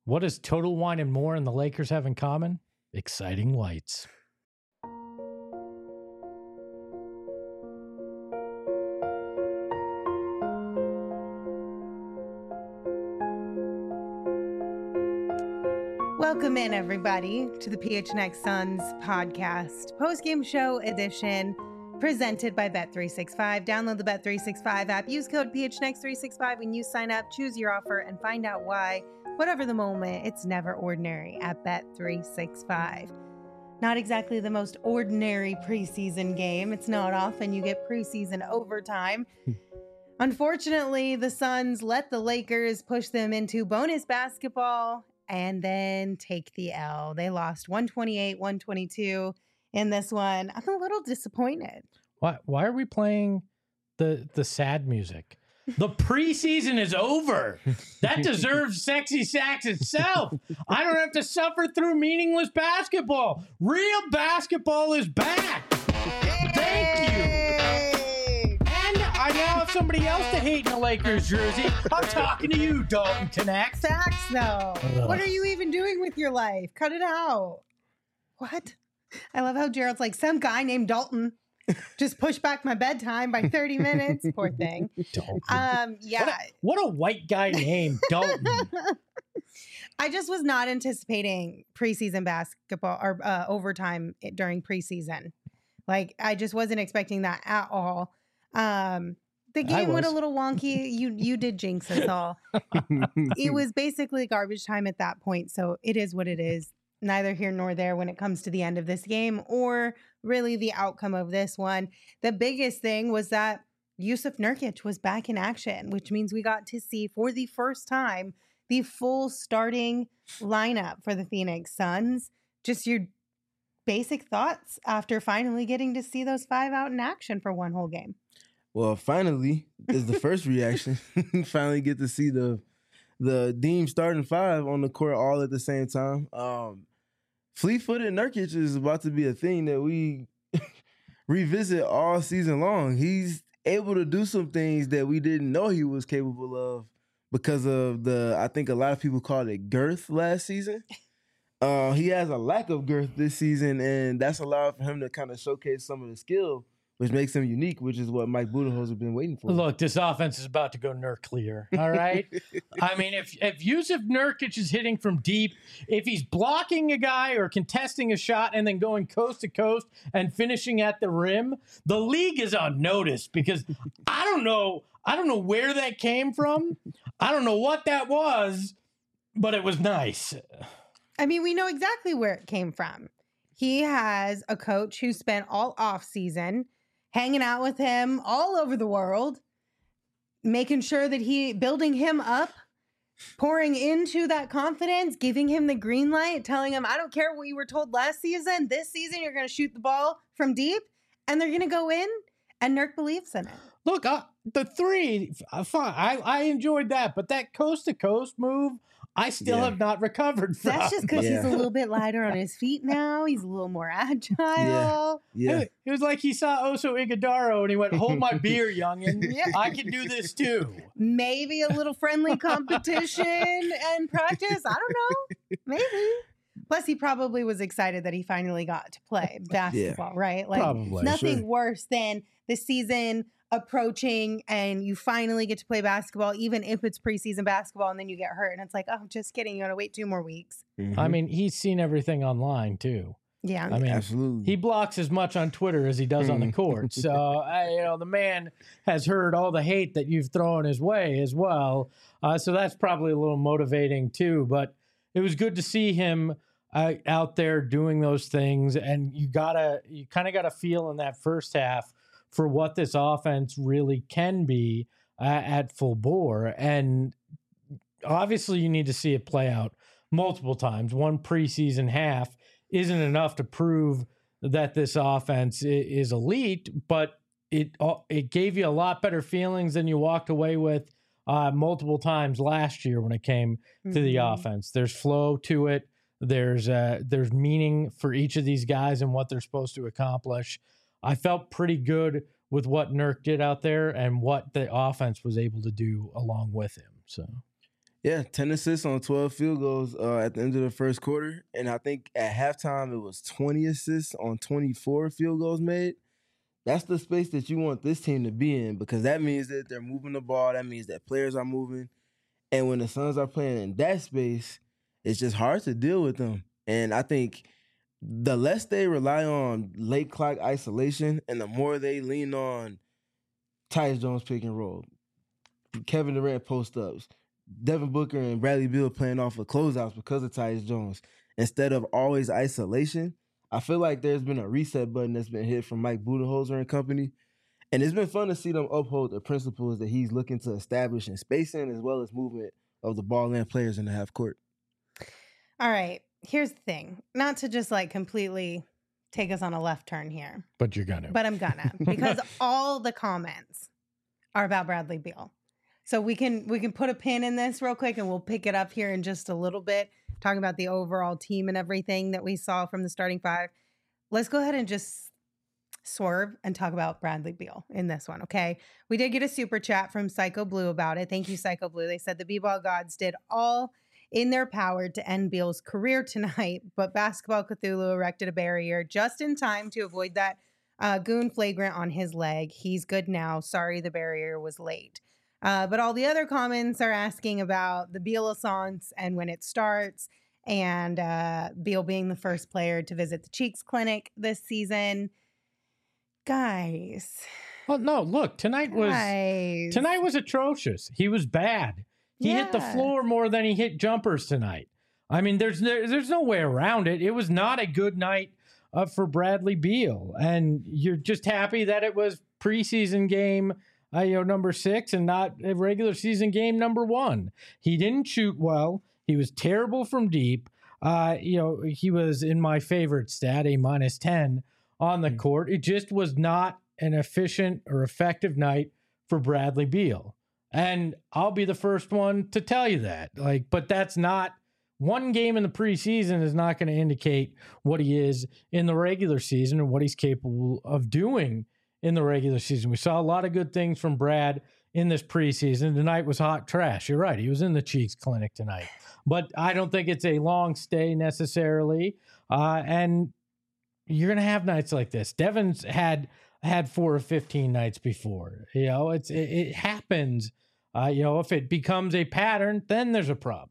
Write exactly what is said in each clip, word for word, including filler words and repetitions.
What does Total Wine and More and the Lakers have in common? Exciting lights. Welcome in, everybody, to the P H N X Suns podcast, post-game show edition, presented by Bet three sixty-five. Download the Bet three sixty-five app, use code P H N X three sixty-five when you sign up, choose your offer, and find out why, whatever the moment, it's never ordinary at Bet three sixty-five. Not exactly the most ordinary preseason game. It's not often you get preseason overtime. Unfortunately, the Suns let the Lakers push them into bonus basketball and then take the L. They lost one twenty-eight, one twenty-two in this one. I'm a little disappointed. Why why are we playing the the sad music? The preseason is over. That deserves Sexy Sax itself. I don't have to suffer through meaningless basketball. Real basketball is back. Thank you. And I now have somebody else to hate in the Lakers jersey. I'm talking to you, Dalton Connect. Sax, though. Ugh. What are you even doing with your life? Cut it out. What? I love how Gerald's like, some guy named Dalton just pushed back my bedtime by thirty minutes. Poor thing. Dalton. Um, yeah. What a, what a white guy name, Dalton. I just was not anticipating preseason basketball or uh, overtime during preseason. Like, I just wasn't expecting that at all. Um, the game went a little wonky. You you did jinx us all. It was basically garbage time at that point. So it is what it is. Neither here nor there when it comes to the end of this game or really the outcome of this one. The biggest thing was that Jusuf Nurkic was back in action, which means we got to see for the first time the full starting lineup for the Phoenix Suns. Just your basic thoughts after finally getting to see those five out in action for one whole game. Well, finally is the first reaction. Finally get to see the the Deem starting five on the court all at the same time. Um, Fleet-footed Nurkic is about to be a thing that we revisit all season long. He's able to do some things that we didn't know he was capable of because of the, I think a lot of people called it girth last season. Uh, he has a lack of girth this season, and that's allowed for him to kind of showcase some of the skill, which makes him unique, which is what Mike Budenholzer has been waiting for. Look, this offense is about to go nuclear, all right? I mean, if if Jusuf Nurkic is hitting from deep, if he's blocking a guy or contesting a shot and then going coast to coast and finishing at the rim, the league is on notice because I don't know, I don't know where that came from. I don't know what that was, but it was nice. I mean, we know exactly where it came from. He has a coach who spent all off season hanging out with him all over the world, making sure that he, building him up, pouring into that confidence, giving him the green light, telling him, I don't care what you were told last season. This season, you're going to shoot the ball from deep, and they're going to go in, and Nurk believes in it. Look, uh, the three, uh, fine. I, I enjoyed that, but that coast-to-coast move, I still Yeah. have not recovered from. That's just because Yeah. he's a little bit lighter on his feet now. He's a little more agile. Yeah. Yeah. It, it was like he saw Oso Ighodaro and he went, hold my beer, youngin. Yeah. I can do this too. Maybe a little friendly competition and practice. I don't know. Maybe. Plus, he probably was excited that he finally got to play basketball, right? Like, Probably, nothing sure. worse than the season approaching and you finally get to play basketball, even if it's preseason basketball, and then you get hurt. And it's like, oh, just kidding. You got to wait two more weeks. Mhm. I mean, he's seen everything online too. Yeah. I mean, Absolutely. he blocks as much on Twitter as he does on the court. So, I, you know, the man has heard all the hate that you've thrown his way as well. Uh, so that's probably a little motivating too. But it was good to see him uh, out there doing those things. And you gotta, you kind of got to feel in that first half for what this offense really can be uh, at full bore. And obviously you need to see it play out multiple times. One preseason half isn't enough to prove that this offense i- is elite, but it uh, it gave you a lot better feelings than you walked away with uh, multiple times last year when it came to the Mhm. offense. There's flow to it. There's uh, there's meaning for each of these guys and what they're supposed to accomplish. I felt pretty good with what Nurk did out there and what the offense was able to do along with him. So, Yeah, ten assists on twelve field goals uh, at the end of the first quarter. And I think at halftime it was twenty assists on twenty-four field goals made. That's the space that you want this team to be in, because that means that they're moving the ball. That means that players are moving. And when the Suns are playing in that space, it's just hard to deal with them. And I think the less they rely on late clock isolation and the more they lean on Tyus Jones pick and roll, Kevin Durant post-ups, Devin Booker and Bradley Beal playing off of closeouts because of Tyus Jones, instead of always isolation, I feel like there's been a reset button that's been hit from Mike Budenholzer and company. And it's been fun to see them uphold the principles that he's looking to establish in spacing as well as movement of the ball and players in the half court. All right. Here's the thing. Not to just like completely take us on a left turn here. But you're gonna. But I'm gonna. Because all the comments are about Bradley Beal. So we can we can put a pin in this real quick and we'll pick it up here in just a little bit, talking about the overall team and everything that we saw from the starting five. Let's go ahead and just swerve and talk about Bradley Beal in this one, okay? We did get a super chat from Psycho Blue about it. Thank you, Psycho Blue. They said the B-Ball gods did all in their power to end Beal's career tonight, but Basketball Cthulhu erected a barrier just in time to avoid that uh, goon flagrant on his leg. He's good now. Sorry the barrier was late. Uh, but all the other comments are asking about the Beal-a-sance and when it starts, and uh, Beal being the first player to visit the Cheeks Clinic this season. Guys. Well, no, look, tonight was guys. tonight was atrocious. He was bad. He yeah. hit the floor more than he hit jumpers tonight. I mean, there's there, there's no way around it. It was not a good night uh, for Bradley Beal, and you're just happy that it was preseason game, uh, you know, number six, and not a regular season game number one. He didn't shoot well. He was terrible from deep. Uh, you know, he was in my favorite stat, a minus ten on the court. It just was not an efficient or effective night for Bradley Beal. And I'll be the first one to tell you that. Like, but that's not one game in the preseason is not going to indicate what he is in the regular season and what he's capable of doing in the regular season. We saw a lot of good things from Brad in this preseason. Tonight was hot trash. You're right. He was in the Cheeks Clinic tonight. But I don't think it's a long stay necessarily. Uh, and you're going to have nights like this. Devin's had had four or fifteen nights before. You know, it's it, it happens. Uh, you know, if it becomes a pattern, then there's a problem.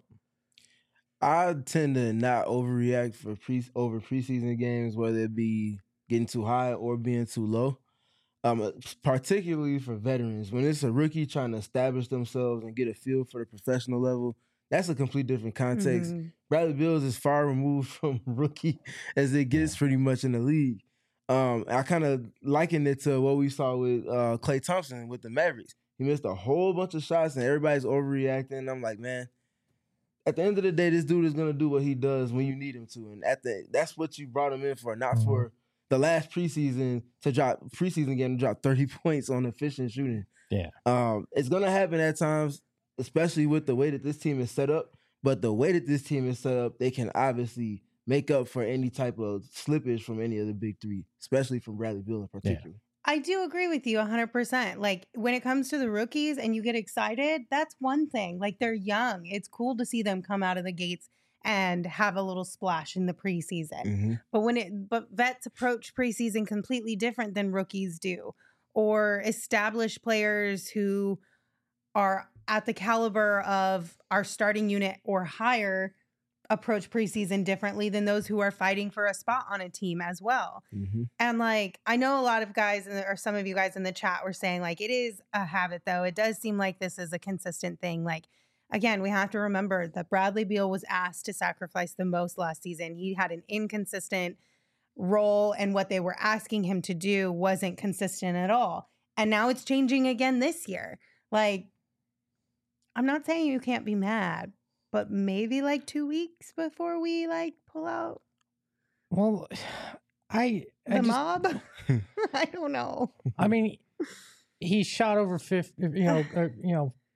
I tend to not overreact for pre over preseason games, whether it be getting too high or being too low. Um, particularly for veterans, when it's a rookie trying to establish themselves and get a feel for the professional level, that's a complete different context. Mm-hmm. Bradley Beal is as far removed from rookie as it gets pretty much in the league. Um, I kind of liken it to what we saw with uh, Klay Thompson with the Mavericks. He missed a whole bunch of shots and everybody's overreacting. I'm like, man, at the end of the day, this dude is going to do what he does when you need him to. And at the that's what you brought him in for, not mm-hmm. for the last preseason to drop preseason game to drop thirty points on efficient shooting. Yeah. Um, it's going to happen at times, especially with the way that this team is set up. But the way that this team is set up, they can obviously make up for any type of slippage from any of the big three, especially from Bradley Beal in particular. Yeah. I do agree with you one hundred percent. Like, when it comes to the rookies and you get excited, that's one thing. Like, they're young. It's cool to see them come out of the gates and have a little splash in the preseason. Mm-hmm. But when it, but vets approach preseason completely different than rookies do, or established players who are at the caliber of our starting unit or higher approach preseason differently than those who are fighting for a spot on a team as well. Mm-hmm. And like, I know a lot of guys, or some of you guys in the chat were saying like, it is a habit though. It does seem like this is a consistent thing. Like, again, we have to remember that Bradley Beal was asked to sacrifice the most last season. He had an inconsistent role, and what they were asking him to do wasn't consistent at all. And now it's changing again this year. Like, I'm not saying you can't be mad, but maybe like two weeks before we like pull out. Well, I, I the just, mob. I don't know. I mean, he shot over fifty. You know, or, you know,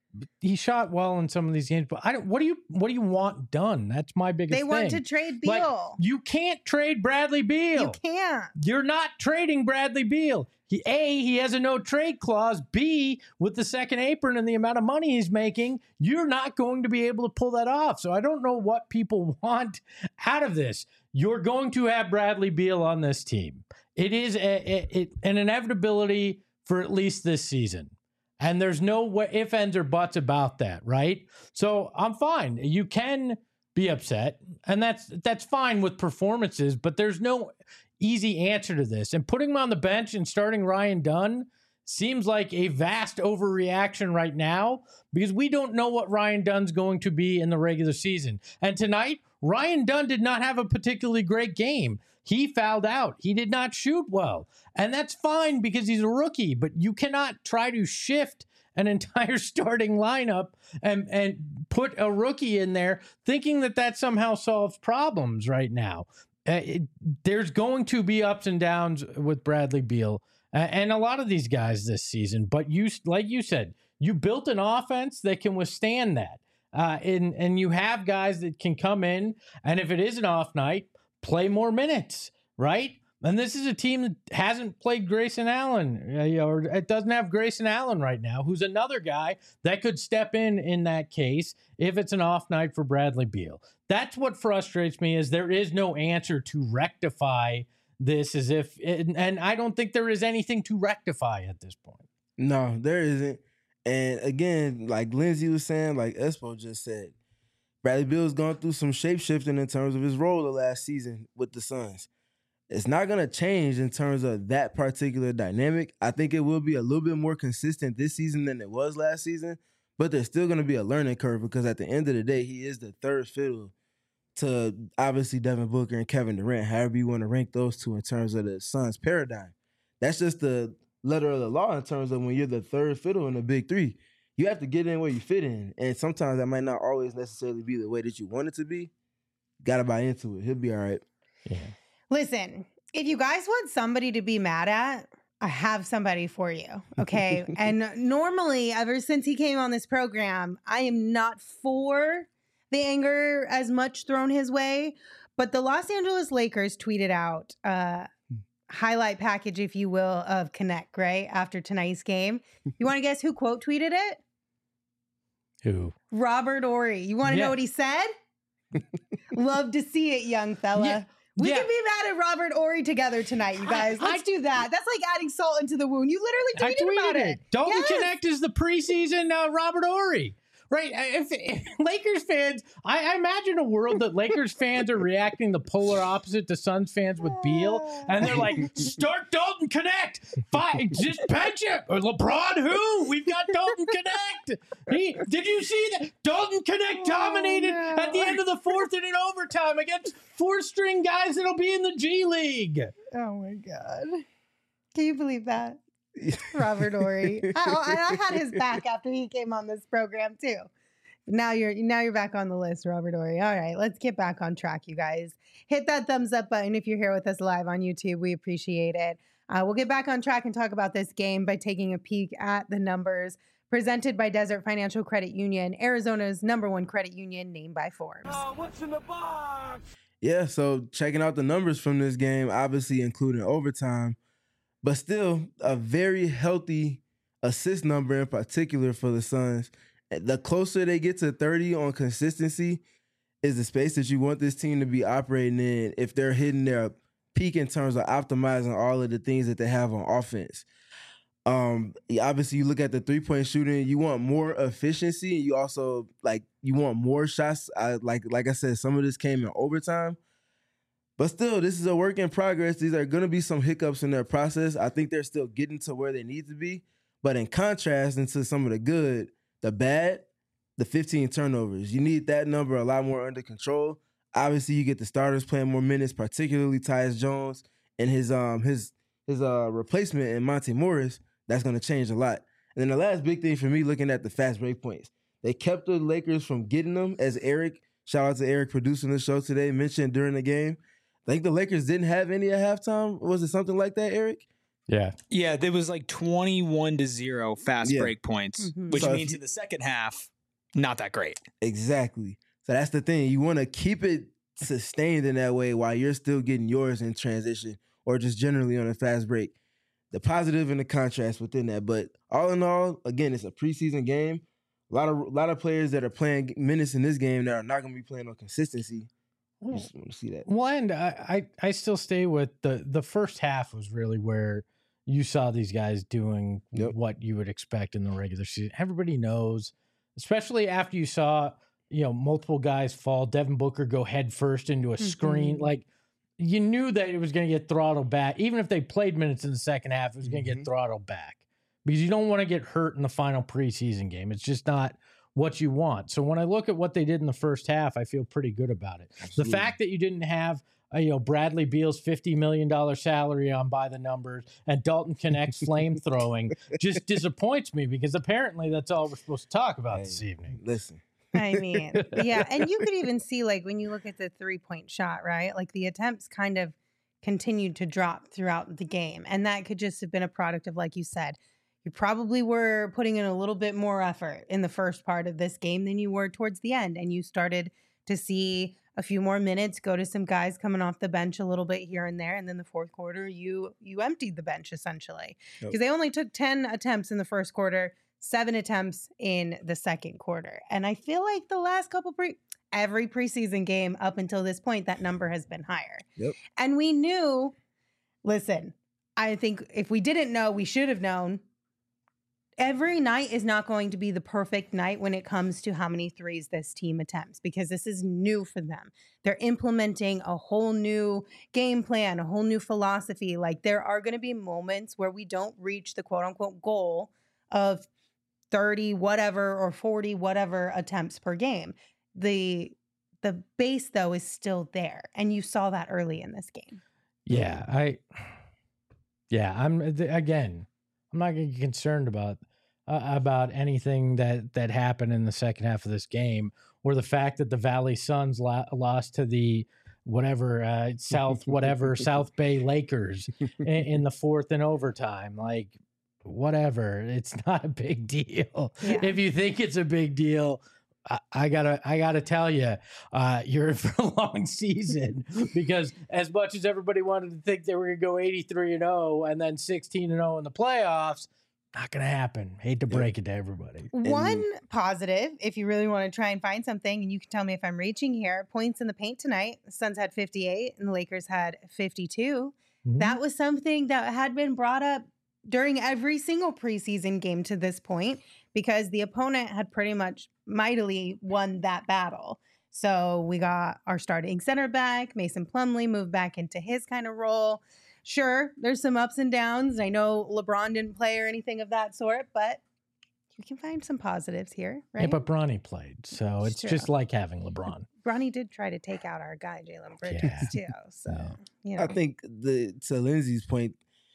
he shot well in some of these games, but I don't. What do you what do you want done? That's my biggest. They thing. want to trade Beal. Like, you can't trade Bradley Beal. You can't. You're not trading Bradley Beal. He, A, he has a no trade clause. B, with the second apron and the amount of money he's making, you're not going to be able to pull that off. So I don't know what people want out of this. You're going to have Bradley Beal on this team. It is a, a, a, an inevitability for at least this season. And there's no way, ifs, ands, or buts about that, right? So I'm fine. You can be upset, and that's that's fine with performances, but there's no easy answer to this. And putting him on the bench and starting Ryan Dunn seems like a vast overreaction right now because we don't know what Ryan Dunn's going to be in the regular season. And tonight, Ryan Dunn did not have a particularly great game. He fouled out. He did not shoot well. And that's fine because he's a rookie, but you cannot try to shift an entire starting lineup and, and put a rookie in there thinking that that somehow solves problems right now. Uh, it, there's going to be ups and downs with Bradley Beal uh, and a lot of these guys this season. But you, like you said, you built an offense that can withstand that. Uh, and, and you have guys that can come in, and if it is an off night, play more minutes, right? And this is a team that hasn't played Grayson Allen, uh, or it doesn't have Grayson Allen right now, who's another guy that could step in in that case if it's an off night for Bradley Beal. That's what frustrates me is there is no answer to rectify this as if, and, and I don't think there is anything to rectify at this point. No, there isn't. And again, like Lindsay was saying, like Espo just said, Bradley Beal's gone through some shape shifting in terms of his role the last season with the Suns. It's not going to change in terms of that particular dynamic. I think it will be a little bit more consistent this season than it was last season, but there's still going to be a learning curve because at the end of the day, he is the third fiddle to obviously Devin Booker and Kevin Durant, however you want to rank those two in terms of the Suns paradigm. That's just the letter of the law in terms of when you're the third fiddle in the big three. You have to get in where you fit in, and sometimes that might not always necessarily be the way that you want it to be. Got to buy into it. He'll be all right. Yeah. Listen, if you guys want somebody to be mad at, I have somebody for you, okay? And normally, ever since he came on this program, I am not for the anger as much thrown his way, but the Los Angeles Lakers tweeted out uh highlight package, if you will, of Connect, right? After tonight's game. You want to guess who quote tweeted it? Who? Robert Horry. You want to Yeah. know what he said? Love to see it, young fella. Yeah. We Yeah. can be mad at Robert Horry together tonight, you guys. I- Let's I- do that. That's like adding salt into the wound. You literally I tweeted, tweeted about it. it. Dalton Yes. Connect is the preseason uh, Robert Horry. Right. If, if Lakers fans, I, I imagine a world that Lakers fans are reacting the polar opposite to Suns fans with Beal. And they're like, start Dalton Connect. Fine, just bench him. Or LeBron who? We've got Dalton Connect. He, did you see that? Dalton Connect dominated Oh, no. at the end of the fourth and in overtime against four-string guys that'll be in the G League. Oh, my God. Can you believe that? Robert Horry. I, I, I had his back after he came on this program too. Now you're now you're back on the list, Robert Horry. All right, let's get back on track, you guys. Hit that thumbs up button if you're here with us live on YouTube. We appreciate it. Uh, we'll get back on track and talk about this game by taking a peek at the numbers presented by Desert Financial Credit Union, Arizona's number one credit union, named by Forbes. Oh, what's in the box? Yeah, so checking out the numbers from this game, obviously including overtime, but still a very healthy assist number in particular for the Suns. The closer they get to thirty on consistency is the space that you want this team to be operating in if they're hitting their peak in terms of optimizing all of the things that they have on offense. Um, obviously, you look at the three-point shooting, you want more efficiency. You also, like, you want more shots. I, like, like I said, some of this came in overtime. But still, this is a work in progress. These are going to be some hiccups in their process. I think they're still getting to where they need to be. But in contrast into some of the good, the bad, the fifteen turnovers. You need that number a lot more under control. Obviously, you get the starters playing more minutes, particularly Tyus Jones and his um his his uh replacement in Monte Morris. That's going to change a lot. And then the last big thing for me, looking at the fast break points, they kept the Lakers from getting them. As Eric, shout out to Eric producing the show today, mentioned during the game. I think the Lakers didn't have any at halftime. Was it something like that, Eric? Yeah. Yeah, there was like twenty-one to zero fast Yeah. break points, Mhm. which So if means you- in the second half, not that great. Exactly. So that's the thing. You want to keep it sustained in that way while you're still getting yours in transition or just generally on a fast break. The positive and the contrast within that. But all in all, again, it's a preseason game. A lot of a lot of players that are playing minutes in this game that are not going to be playing on consistency. You just want to see that. Well, and I, I, I still stay with the the first half was really where you saw these guys doing Yep. what you would expect in the regular season. Everybody knows, especially after you saw, you know, multiple guys fall, Devin Booker go head first into a screen. Mhm. Like, you knew that it was going to get throttled back. Even if they played minutes in the second half, it was going to Mhm. get throttled back because you don't want to get hurt in the final preseason game. It's just not what you want. So when I look at what they did in the first half, I feel pretty good about it. Absolutely. The fact that you didn't have uh, you know, Bradley Beal's fifty million dollars salary on by the numbers and Dalton Connect's flame throwing just disappoints me because apparently that's all we're supposed to talk about Hey, this evening. Listen. I mean, yeah. And you could even see, like, when you look at the three point shot, right? Like, the attempts kind of continued to drop throughout the game. And that could just have been a product of, like you said, you probably were putting in a little bit more effort in the first part of this game than you were towards the end. And you started to see a few more minutes go to some guys coming off the bench a little bit here and there. And then the fourth quarter, you you emptied the bench essentially because Yep. they only took ten attempts in the first quarter, seven attempts in the second quarter. And I feel like the last couple pre every preseason game up until this point, that number has been higher. Yep. And we knew, listen, I think if we didn't know, we should have known. Every night is not going to be the perfect night when it comes to how many threes this team attempts because this is new for them. They're implementing a whole new game plan, a whole new philosophy. Like, there are going to be moments where we don't reach the quote unquote goal of thirty whatever or forty whatever attempts per game. The the base though is still there, and you saw that early in this game. Yeah, I yeah, I'm again, I'm not going to get concerned about uh, about anything that that happened in the second half of this game or the fact that the Valley Suns lo- lost to the whatever uh, South whatever South Bay Lakers in, in the fourth in overtime. Like, whatever, it's not a big deal. Yeah. If you think it's a big deal, I, I gotta I gotta tell you, uh, you're in for a long season because as much as everybody wanted to think they were gonna go eighty-three and oh and then sixteen and oh in the playoffs, not gonna happen. Hate to break it to everybody. One positive, if you really want to try and find something, and you can tell me if I'm reaching here, points in the paint tonight. The Suns had fifty-eight and the Lakers had fifty-two. Mhm. That was something that had been brought up during every single preseason game to this point because the opponent had pretty much mightily won that battle. So we got our starting center back, Mason Plumlee, moved back into his kind of role. Sure, there's some ups and downs. I know LeBron didn't play or anything of that sort, but you can find some positives here, right? Yeah, but Bronny played, so It's it's true. just like having LeBron. Bronny did try to take out our guy, Jalen Bridges, too. So, Yeah. you know. I think the to Lindsay's point,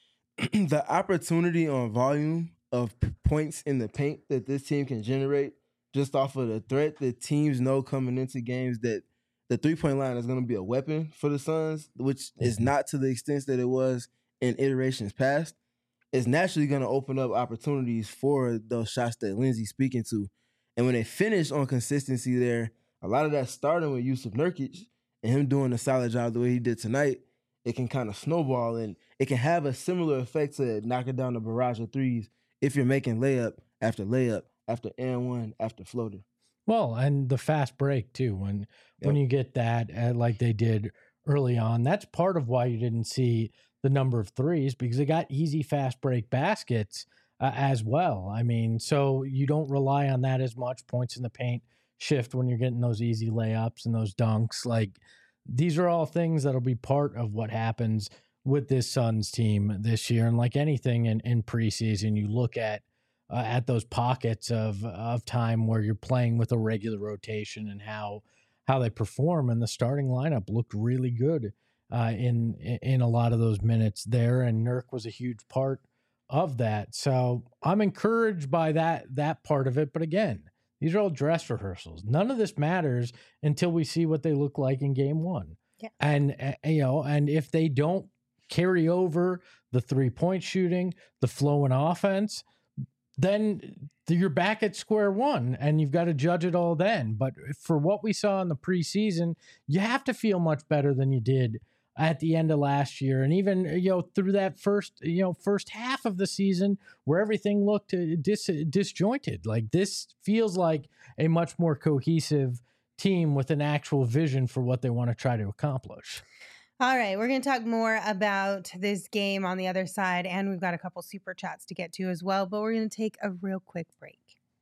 the opportunity on volume of p- points in the paint that this team can generate just off of the threat that teams know coming into games that the three-point line is going to be a weapon for the Suns, which is not to the extent that it was in iterations past, is naturally going to open up opportunities for those shots that Lindsay's speaking to. And when they finish on consistency there, a lot of that starting with Yusuf Nurkic and him doing a solid job the way he did tonight, it can kind of snowball and it can have a similar effect to knocking down the barrage of threes if you're making layup after layup after and one after floater. Well, and the fast break too. When when Yep. you get that, uh, like they did early on, that's part of why you didn't see the number of threes because they got easy fast break baskets uh, as well. I mean, so you don't rely on that as much. Points in the paint shift when you're getting those easy layups and those dunks. Like, these are all things that'll be part of what happens with this Suns team this year. And like anything in, in preseason, you look at uh, at those pockets of of time where you're playing with a regular rotation and how how they perform. And the starting lineup looked really good uh, in in a lot of those minutes there. And Nurk was a huge part of that. So I'm encouraged by that that part of it. But again, these are all dress rehearsals. None of this matters until we see what they look like in game one. Yeah. And uh, you know, and if they don't carry over the three-point shooting, the flow in offense, then you're back at square one and you've got to judge it all then. But for what we saw in the preseason, you have to feel much better than you did at the end of last year. And even, you know, through that first, you know, first half of the season where everything looked dis- disjointed. Like, this feels like a much more cohesive team with an actual vision for what they want to try to accomplish. All right, we're going to talk more about this game on the other side, and we've got a couple super chats to get to as well, but we're going to take a real quick break.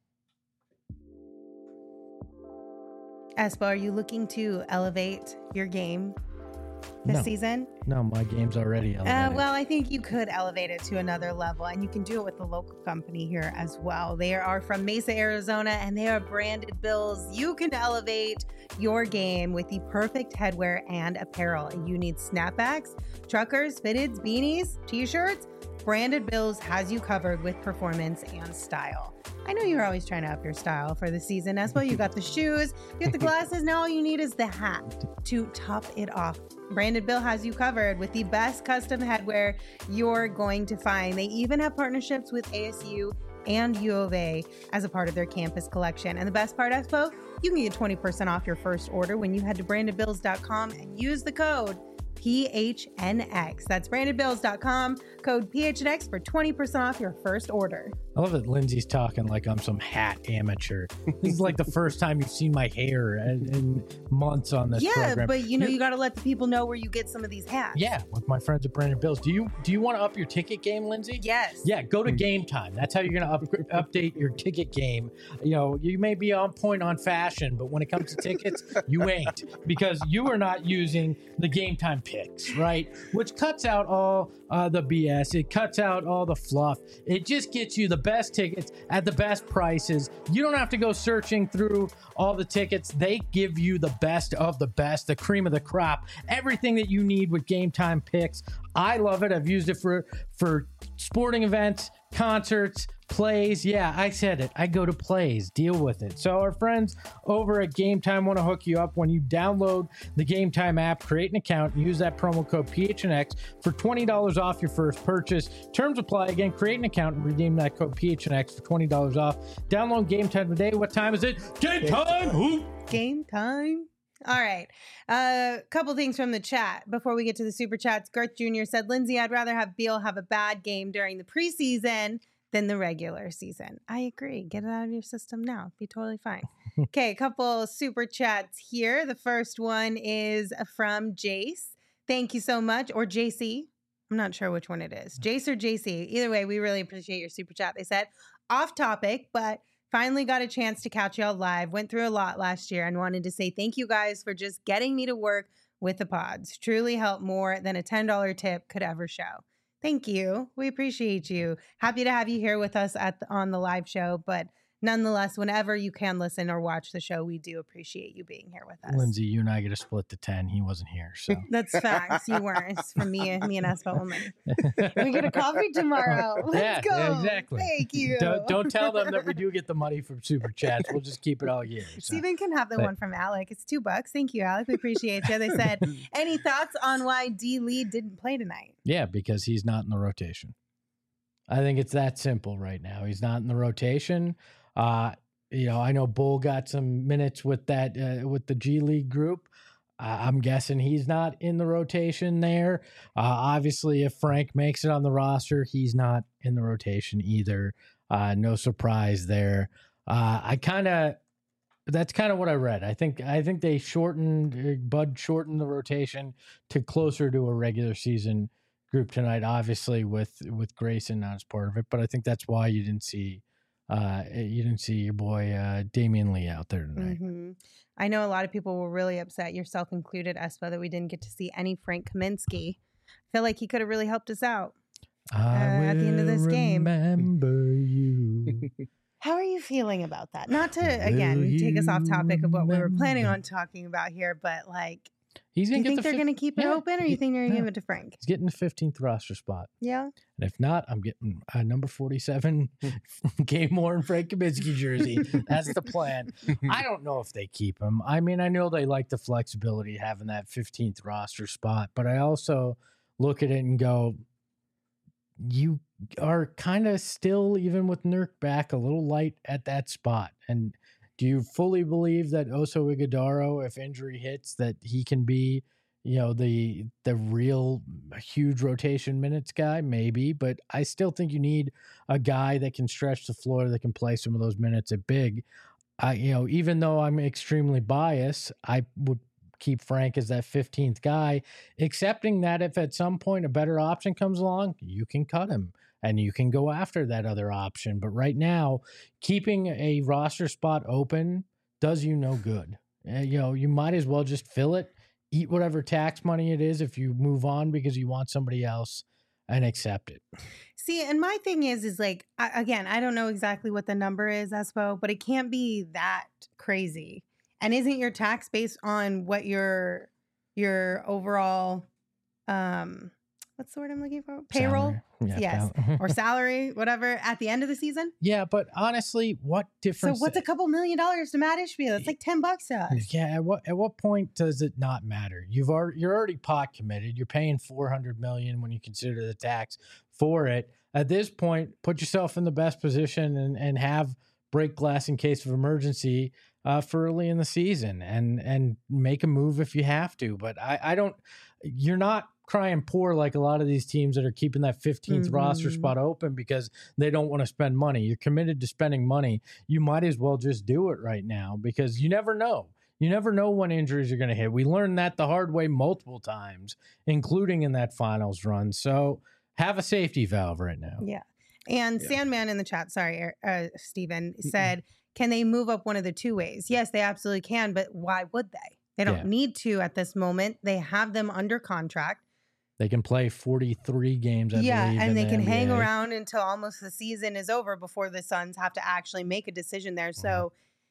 Espo, are you looking to elevate your game this No. season? No, my game's already Uh, elevated. well, I think you could elevate it to another level, and you can do it with the local company here as well. They are from Mesa, Arizona, and they are Branded Bills. You can elevate your game with the perfect headwear and apparel. You need snapbacks, truckers, fitteds, beanies, t-shirts. Branded Bills has you covered with performance and style. I know you're always trying to up your style for the season. As well, you got the shoes, you got the glasses. Now all you need is the hat to top it off. Branded Bill has you covered with the best custom headwear you're going to find. They even have partnerships with A S U and U of A as a part of their campus collection. And the best part, Espo, you can get twenty percent off your first order when you head to branded bills dot com and use the code P H N X. That's branded bills dot com, code P H N X for twenty percent off your first order. I love that Lindsay's talking like I'm some hat amateur. This is like the first time you've seen my hair in, in months on this Yeah, program. but you know, You're- you got to let the people know where you get some of these hats. Yeah, with my friends at Brandon Bills. Do you do you want to up your ticket game, Lindsay? Yes. Yeah, go to Game Time. That's how you're going to up, update your ticket game. You know, you may be on point on fashion, but when it comes to tickets, you ain't, because you are not using the Game Time picks, right? Which cuts out all uh, the B S. It cuts out all the fluff. It just gets you the best tickets at the best prices. You don't have to go searching through all the tickets. They give you the best of the best, the cream of the crop, everything that you need with Game Time picks. I love it. I've used it for for sporting events, concerts, plays. Yeah, I said it. I go to plays. Deal with it. So our friends over at Game Time want to hook you up. When you download the Game Time app, create an account, and use that promo code P H N X for twenty dollars off your first purchase. Terms apply. Again, create an account and redeem that code P H N X for twenty dollars off. Download Game Time today. What time is it? Game time! Who? Game time. All right. A uh, couple things from the chat before we get to the super chats. Garth Junior said, Lindsay, I'd rather have Beal have a bad game during the preseason than the regular season. I agree. Get it out of your system now. Be totally fine. Okay, a couple super chats here. The first one is from Jace. Thank you so much. Or J C. I'm not sure which one it is. Jace or J C. Either way, we really appreciate your super chat. They said, off topic, but finally got a chance to catch y'all live. Went through a lot last year and wanted to say thank you guys for just getting me to work with the pods. Truly helped more than a ten dollars tip could ever show. Thank you. We appreciate you. Happy to have you here with us at the, on the live show, but nonetheless, whenever you can listen or watch the show, we do appreciate you being here with us. Lindsay, you and I get to split the ten. He wasn't here, so. That's facts. You weren't. It's for me, me and Espo only. We get a coffee tomorrow. Let's Yeah, go. yeah, exactly. Thank you. Don't, don't tell them that we do get the money from super chats. We'll just keep it all year. So. Steven can have the But- one from Alec. It's two bucks. Thank you, Alec. We appreciate you. They said, any thoughts on why D. Lee didn't play tonight? Yeah, because he's not in the rotation. I think it's that simple right now. He's not in the rotation. Uh, you know, I know Bull got some minutes with that uh, with the G League group. Uh, I'm guessing he's not in the rotation there. Uh, obviously, if Frank makes it on the roster, he's not in the rotation either. Uh, no surprise there. Uh, I kind of that's kind of what I read. I think I think they shortened uh, Bud shortened the rotation to closer to a regular season group tonight. Obviously, with with Grayson not as part of it, but I think that's why you didn't see. Uh, you didn't see your boy uh, Damian Lee out there tonight. Mm-hmm. I know a lot of people were really upset, yourself included, Espo, that we didn't get to see any Frank Kaminsky. I feel like he could have really helped us out uh, at the end of this game. Remember you. How are you feeling about that? Not to, again, Will take us off topic of what we were planning remember? on talking about here, but like, He's do gonna you get think the they're fif- going to keep it yeah, open, or you he- think they're going to yeah. give it to Frank? He's getting the fifteenth roster spot. Yeah. And if not, I'm getting a number forty-seven Gabe Moore and Frank Kaminsky jersey. That's the plan. I don't know if they keep him. I mean, I know they like the flexibility having that fifteenth roster spot, but I also look at it and go, you are kind of still, even with Nurk back, a little light at that spot. And do you fully believe that Oso Ighodaro, if injury hits, that he can be, you know, the the real huge rotation minutes guy? Maybe, but I still think you need a guy that can stretch the floor, that can play some of those minutes at big. I, you know, even though I'm extremely biased, I would keep Frank as that fifteenth guy, accepting that if at some point a better option comes along, you can cut him and you can go after that other option. But right now, keeping a roster spot open does you no good. Uh, you know, you might as well just fill it, eat whatever tax money it is if you move on because you want somebody else, and accept it. See, and my thing is, is like, I, again, I don't know exactly what the number is, Espo, but it can't be that crazy. And isn't your tax based on what your your overall, um, what's the word I'm looking for? Payroll? Salary. Yeah, yes. pal- Or salary, whatever, at the end of the season? Yeah, but honestly, what So difference? what's a couple million dollars to Matt Ishbia? That's like ten bucks to us. Yeah, at what at what point does it not matter? You've already you're already pot committed. You're paying four hundred million when you consider the tax for it. At this point, put yourself in the best position and and have break glass in case of emergency uh, for early in the season, and and make a move if you have to. But I I don't. You're not crying poor like a lot of these teams that are keeping that fifteenth Mm-hmm. roster spot open because they don't want to spend money. You're committed to spending money. You might as well just do it right now because you never know. You never know when injuries are going to hit. We learned that the hard way multiple times, including in that finals run. So have a safety valve right now. Yeah. And Yeah. Sandman in the chat, sorry, uh, Stephen, said, can they move up one of the two ways? Yes, they absolutely can, but why would they? They don't Yeah. need to at this moment. They have them under contract. They can play forty-three games, I yeah, believe. and in they the can hang N B A. around until almost the season is over before the Suns have to actually make a decision there. So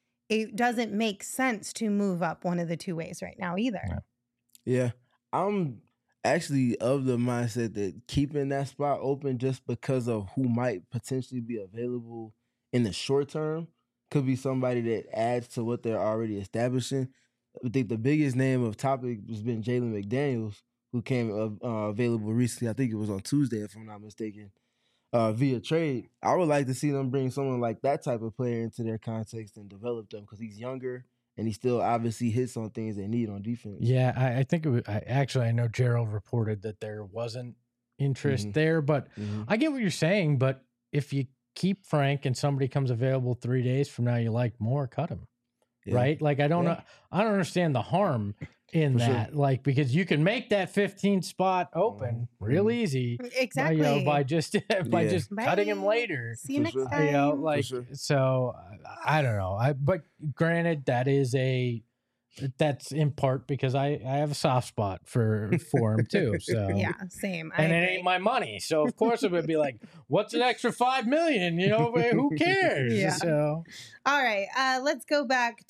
it doesn't make sense to move up one of the two ways right now either. Yeah. Yeah, I'm actually of the mindset that keeping that spot open just because of who might potentially be available in the short term could be somebody that adds to what they're already establishing. I think the biggest name of topic has been Jalen McDaniels, who came uh, uh, available recently. I think it was on Tuesday, if I'm not mistaken, uh, via trade. I would like to see them bring someone like that type of player into their context and develop them because he's younger and he still obviously hits on things they need on defense. Yeah, I, I think it was, I, actually, I know Gerald reported that there wasn't interest Mhm. there, but Mhm. I get what you're saying. But if you keep Frank and somebody comes available three days from now, you like more, cut him. Yeah. Right? Like I don't Yeah. know, I don't understand the harm in For sure. that. Like because you can make that fifteenth spot open Mhm. real easy. Exactly. By, you know, by just by Yeah. just cutting him Bye. later. See you For next sure. time. You know, like sure. so. I, I don't know. I but granted, that is a that's in part because I I have a soft spot for for him too. So yeah, same. I and it agree. ain't my money, so of course it would be like, what's an extra five million? You know, who cares? Yeah. So All right, uh, let's go back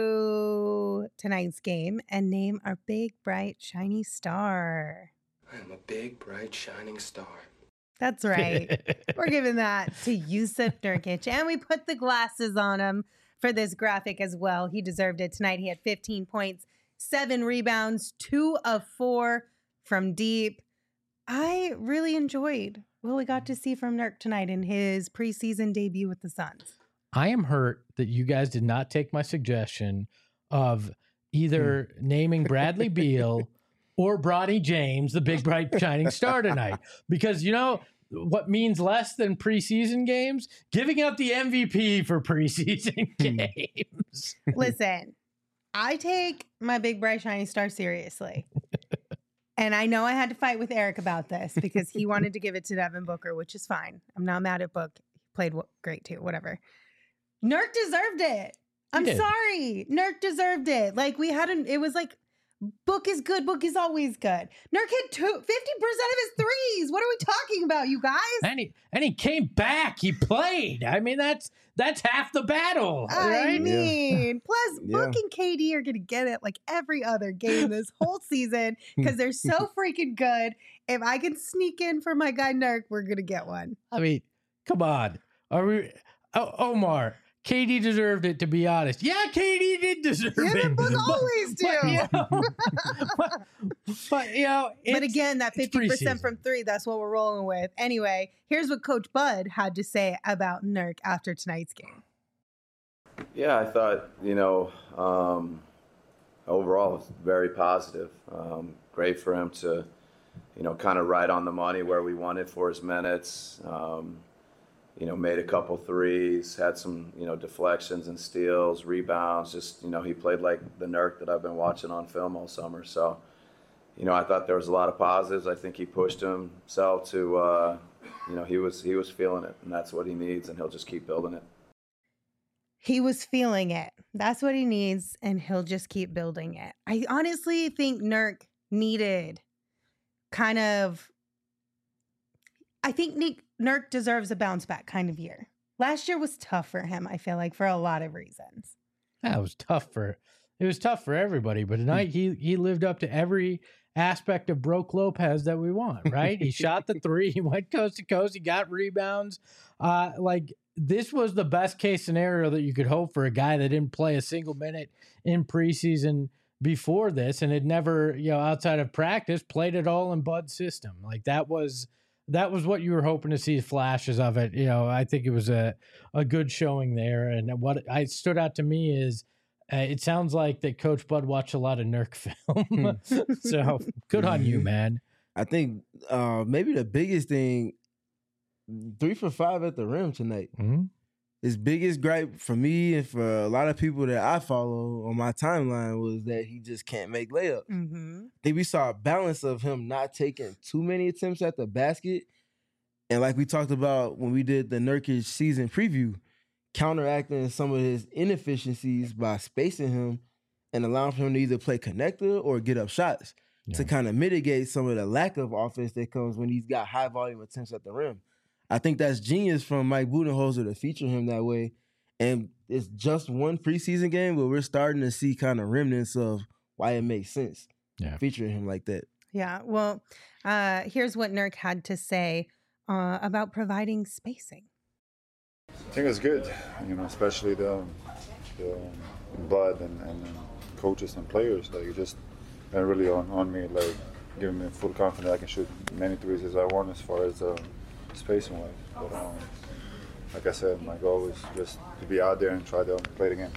to tonight's game and name our big, bright, shiny star. I'm a big, bright, shining star. That's right. We're giving that to Yusuf Nurkic, and we put the glasses on him for this graphic as well. He deserved it tonight. He had fifteen points, seven rebounds, two of four from deep. I really enjoyed what we got to see from Nurk tonight in his preseason debut with the Suns. I am hurt that you guys did not take my suggestion of either naming Bradley Beal or Bronny James the big bright shining star tonight, because you know what means less than preseason games? Giving out the M V P for preseason games. Listen, I take my big, bright, shiny star seriously. And I know I had to fight with Eric about this because he wanted to give it to Devin Booker, which is fine. I'm not mad at Book. He played w- great too, whatever. Nurk deserved it. I'm did. sorry. Nurk deserved it. Like we had an, it was like, Book is good. Book is always good. Nurk hit two, fifty percent of his threes. What are we talking about, you guys? And he and he came back. He played. I mean, that's that's half the battle, I right? mean, plus Yeah. Book and K D are going to get it like every other game this whole season because they're so freaking good. If I can sneak in for my guy Nurk, we're going to get one. I mean, come on. Are we? Oh, Omar, K D deserved it. To be honest, yeah, K D did deserve Yeah, it. the Book But- always do. but, you know, but, But, you know, But it's- again, that it's fifty percent preseason. from three, that's what we're rolling with. Anyway, here's what Coach Bud had to say about Nurk after tonight's game. Yeah, I thought, you know, um, overall, it was very positive. Um, great for him to, you know, kind of right on the money where we wanted for his minutes. Um, you know, made a couple threes, had some, you know, deflections and steals, rebounds. Just, you know, he played like the Nurk that I've been watching on film all summer. So, you know, I thought there was a lot of positives. I think he pushed himself to, uh, you know, he was he was feeling it, and that's what he needs, and he'll just keep building it. He was feeling it. That's what he needs, and he'll just keep building it. I honestly think Nurk needed kind of, I think Nick, Nurk deserves a bounce back kind of year. Last year was tough for him, I feel like, for a lot of reasons. That was tough for it was tough for everybody, but tonight he he lived up to every aspect of Brook Lopez that we want, right? He shot the three, he went coast to coast, he got rebounds. Uh like this was the best case scenario that you could hope for a guy that didn't play a single minute in preseason before this and had never, you know, outside of practice, played it all in Bud's system. Like that was that was what you were hoping to see flashes of it. You know, I think it was a, a good showing there. And what I stood out to me is uh, it sounds like that Coach Bud watched a lot of Nurk film. So good on you, man. I think uh, maybe the biggest thing, three for five at the rim tonight. Mm-hmm. His biggest gripe for me and for a lot of people that I follow on my timeline was that he just can't make layups. Mm-hmm. I think we saw a balance of him not taking too many attempts at the basket. And like we talked about when we did the Nurkic season preview, counteracting some of his inefficiencies by spacing him and allowing for him to either play connector or get up shots Yeah. to kind of mitigate some of the lack of offense that comes when he's got high volume attempts at the rim. I think that's genius from Mike Budenholzer to feature him that way. And it's just one preseason game, but we're starting to see kind of remnants of why it makes sense Yeah. featuring him like that. Yeah. Well, uh, here's what Nurk had to say uh, about providing spacing. I think it's good, you know, especially the, the Bud and, and coaches and players. Like, just been really on, on me, like giving me full confidence I can shoot many threes as I want as far as uh, spacing wise. But um, like I said, my goal is just to be out there and try to play the game.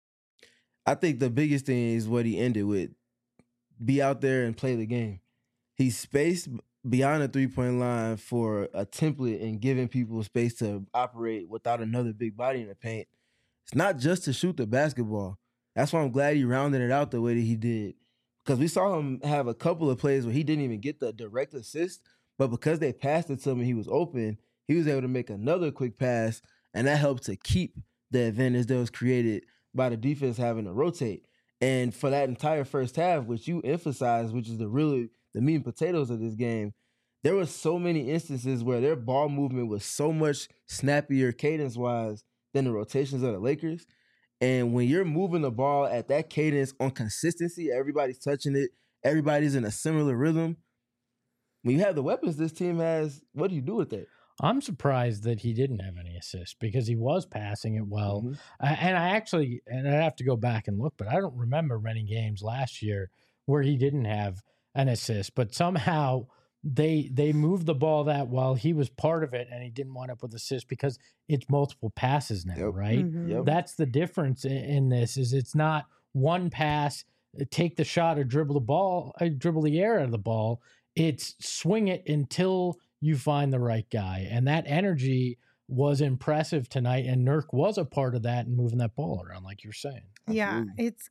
I think the biggest thing is what he ended with. Be out there and play the game. He spaced beyond the three-point line for a template and giving people space to operate without another big body in the paint. It's not just to shoot the basketball. That's why I'm glad he rounded it out the way that he did. Because we saw him have a couple of plays where he didn't even get the direct assist, but because they passed it to him and he was open, he was able to make another quick pass, and that helped to keep the advantage that was created by the defense having to rotate. And for that entire first half, which you emphasized, which is the really the meat and potatoes of this game, there were so many instances where their ball movement was so much snappier cadence-wise than the rotations of the Lakers. And when you're moving the ball at that cadence on consistency, everybody's touching it, everybody's in a similar rhythm. When you have the weapons this team has, what do you do with that? I'm surprised that he didn't have any assists because he was passing it well. Mhm. Uh, and I actually, and I have to go back and look, but I don't remember many games last year where he didn't have an assist. But somehow they they moved the ball that well. He was part of it, and he didn't wind up with assists because it's multiple passes now, Yep. right? Mhm. Yep. That's the difference in, in this. Is it's not one pass, take the shot or dribble the ball, uh, dribble the air out of the ball. It's swing it until you find the right guy. And that energy was impressive tonight. And Nurk was a part of that and moving that ball around, like you're saying. Yeah, Absolutely. it's.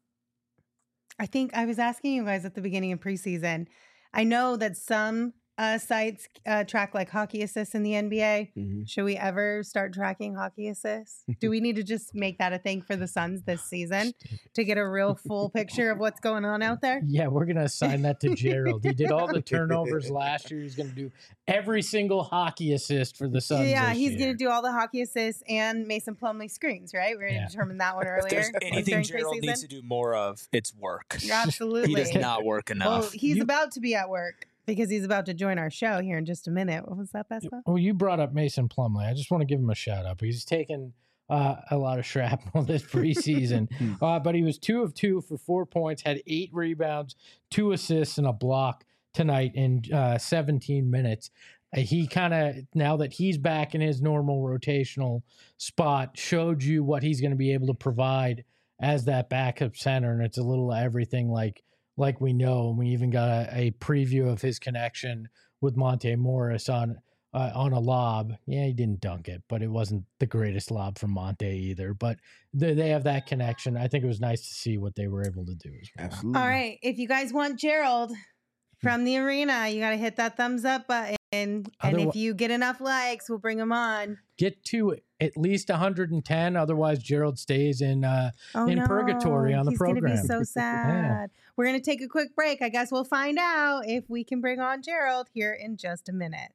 I think I was asking you guys at the beginning of preseason. I know that some uh, sites uh, track like hockey assists in the N B A. Mhm. Should we ever start tracking hockey assists? Do we need to just make that a thing for the Suns this season to get a real full picture of what's going on out there? Yeah, we're going to assign that to Gerald. He did all the turnovers last year. He's going to do every single hockey assist for the Suns. Yeah, this he's year. going to do all the hockey assists and Mason Plumlee screens, right? We're going to Yeah. determine that one If earlier. there's anything during Gerald preseason. needs to do more of, it's work. Absolutely. He does not work Well, enough. he's You- about to be at work because he's about to join our show here in just a minute. What was that, Best Bud? Well, you brought up Mason Plumlee. I just want to give him a shout out because he's taken uh, a lot of shrapnel this preseason. uh, but he was two of two for four points, had eight rebounds, two assists, and a block tonight in uh, seventeen minutes. Uh, he kind of, now that he's back in his normal rotational spot, showed you what he's going to be able to provide as that backup center. And it's a little everything like like we know. And we even got a, a preview of his connection with Monte Morris on uh, on a lob. Yeah, he didn't dunk it, but it wasn't the greatest lob from Monte either. But they, they have that connection. I think it was nice to see what they were able to do as well. Absolutely. All right. If you guys want Gerald from the arena, you got to hit that thumbs up button. And Otherwise, if you get enough likes, we'll bring him on. Get to at least one hundred ten. Otherwise, Gerald stays in uh, Oh, in no. purgatory on the He's program. He's going to be so sad. We're going to take a quick break. I guess we'll find out if we can bring on Gerald here in just a minute.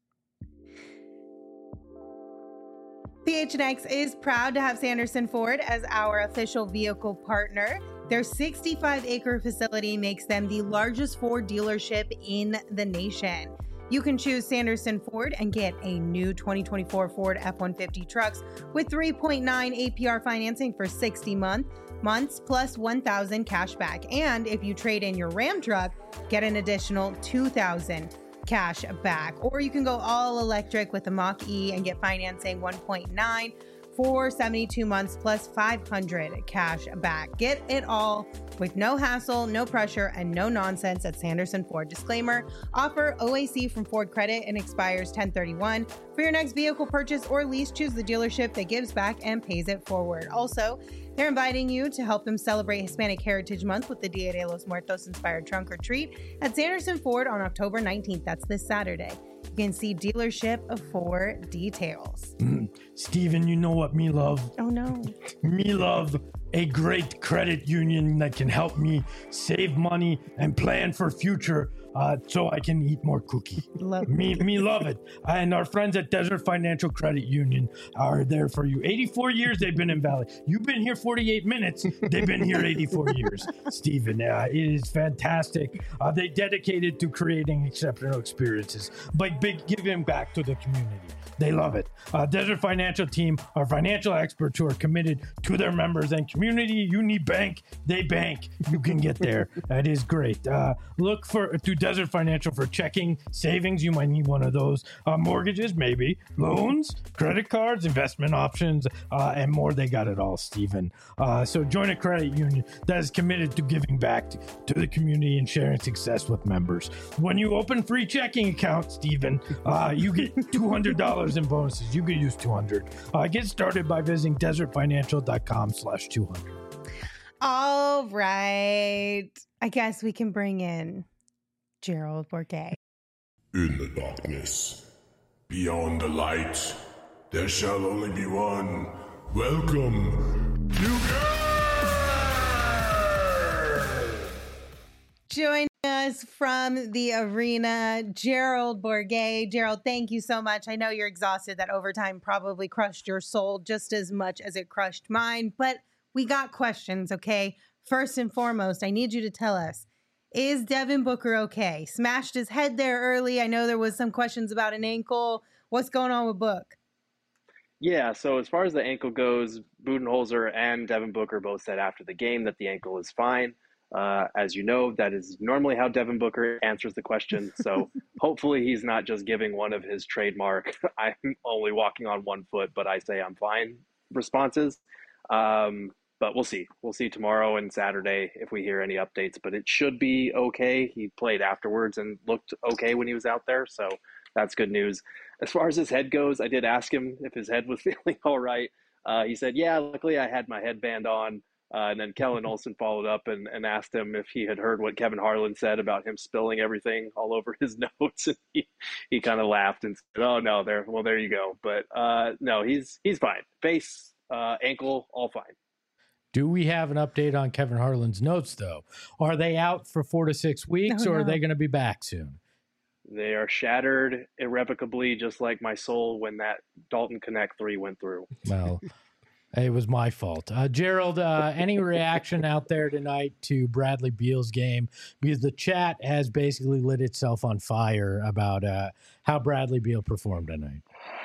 P H N X is proud to have Sanderson Ford as our official vehicle partner. Their sixty-five acre facility makes them the largest Ford dealership in the nation. You can choose Sanderson Ford and get a new twenty twenty-four Ford F one fifty trucks with three point nine A P R financing for sixty month, months plus one thousand cash back. And if you trade in your Ram truck, get an additional two thousand cash back. Or you can go all electric with the Mach-E and get financing one point nine for seventy-two months plus five hundred cash back. Get it all with no hassle, no pressure, and no nonsense at Sanderson Ford. Disclaimer, offer O A C from Ford Credit and expires ten thirty-one. For your next vehicle purchase or lease, choose the dealership that gives back and pays it forward. Also, they're inviting you to help them celebrate Hispanic Heritage Month with the Dia de los Muertos inspired trunk or treat at Sanderson Ford on October nineteenth. That's this Saturday. You can see dealership for details. Mm. Steven, you know what me love? Oh no. Me love a great credit union that can help me save money and plan for future uh, so I can eat more cookie. Love me, me love it. And our friends at Desert Financial Credit Union are there for you. eighty-four years they've been in Valley. You've been here forty-eight minutes. They've been here eighty-four years, Stephen. Uh, it is fantastic. Uh, they dedicated to creating exceptional experiences by big giving back to the community. They love it. Uh, Desert Financial team are financial experts who are committed to their members and community. You need bank, they bank. You can get there. That is great. Uh, look for to Desert Financial for checking, savings. You might need one of those. Uh, mortgages, maybe. Loans, credit cards, investment options, uh, and more. They got it all, Stephen. Uh, so join a credit union that is committed to giving back to, to the community and sharing success with members. When you open free checking account, Stephen, uh, you get two hundred dollars in bonuses. You could use two hundred. Uh, get started by visiting desert financial dot com slash two hundred. All right. I guess we can bring in Gerald Bourguet. In the darkness, beyond the light, there shall only be one. Welcome to Join us from the arena, Gerald Bourguet. Gerald, thank you so much. I know you're exhausted. That overtime probably crushed your soul just as much as it crushed mine, but we got questions, okay? First and foremost, I need you to tell us, is Devin Booker okay? Smashed his head there early. I know there was some questions about an ankle. What's going on with Book? Yeah, so as far as the ankle goes, Budenholzer and Devin Booker both said after the game that the ankle is fine. Uh, as you know, that is normally how Devin Booker answers the question. So hopefully he's not just giving one of his trademark, I'm only walking on one foot, but I say I'm fine responses. Um, but we'll see. We'll see tomorrow and Saturday if we hear any updates, but it should be okay. He played afterwards and looked okay when he was out there. So that's good news. As far as his head goes, I did ask him if his head was feeling all right. Uh, he said, yeah, luckily I had my headband on. Uh, and then Kellen Olson followed up and, and asked him if he had heard what Kevin Harlan said about him spilling everything all over his notes. And he, he kind of laughed and said, oh, no, there, well, there you go. But uh, no, he's he's fine. Face, uh, ankle, all fine. Do we have an update on Kevin Harlan's notes, though? Are they out for four to six weeks, Oh, or no. are they going to be back soon? They are shattered irrevocably, just like my soul when that Dalton Connect three went through. Well, it was my fault. Uh, Gerald, uh, any reaction out there tonight to Bradley Beal's game? Because the chat has basically lit itself on fire about uh, how Bradley Beal performed tonight.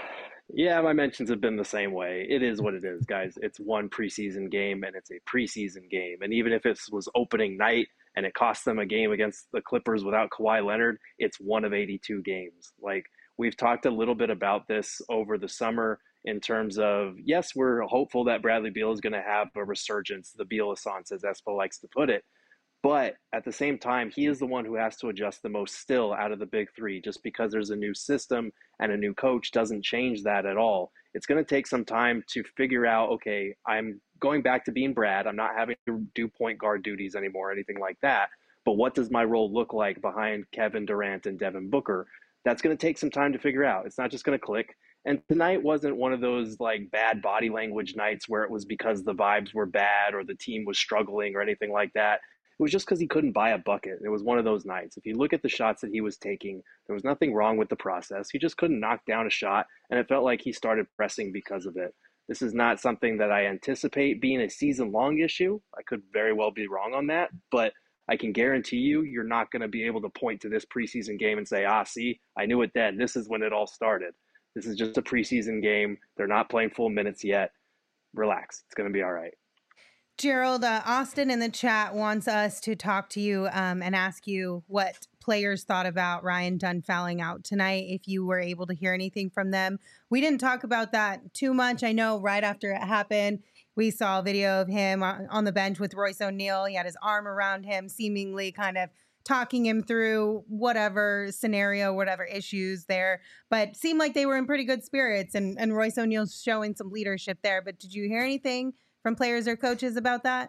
Yeah, my mentions have been the same way. It is what it is, guys. It's one preseason game and it's a preseason game. And even if it was opening night and it cost them a game against the Clippers without Kawhi Leonard, it's one of eighty-two games. Like, we've talked a little bit about this over the summer in terms of, yes, we're hopeful that Bradley Beal is going to have a resurgence, the Beal-assance, as Espo likes to put it. But at the same time, he is the one who has to adjust the most still out of the big three. Just because there's a new system and a new coach doesn't change that at all. It's going to take some time to figure out, okay, I'm going back to being Brad. I'm not having to do point guard duties anymore or anything like that. But what does my role look like behind Kevin Durant and Devin Booker? That's going to take some time to figure out. It's not just going to click. And tonight wasn't one of those like bad body language nights where it was because the vibes were bad or the team was struggling or anything like that. It was just because he couldn't buy a bucket. It was one of those nights. If you look at the shots that he was taking, there was nothing wrong with the process. He just couldn't knock down a shot, and it felt like he started pressing because of it. This is not something that I anticipate being a season-long issue. I could very well be wrong on that, but I can guarantee you you're not going to be able to point to this preseason game and say, ah, see, I knew it then. This is when it all started. This is just a preseason game. They're not playing full minutes yet. Relax. It's going to be all right. Gerald, uh, Austin in the chat wants us to talk to you um, and ask you what players thought about Ryan Dunn fouling out tonight, if you were able to hear anything from them. We didn't talk about that too much. I know right after it happened, we saw a video of him on, on the bench with Royce O'Neal. He had his arm around him, seemingly kind of talking him through whatever scenario, whatever issues there, but seemed like they were in pretty good spirits, and, and Royce O'Neal's showing some leadership there. But did you hear anything from players or coaches about that?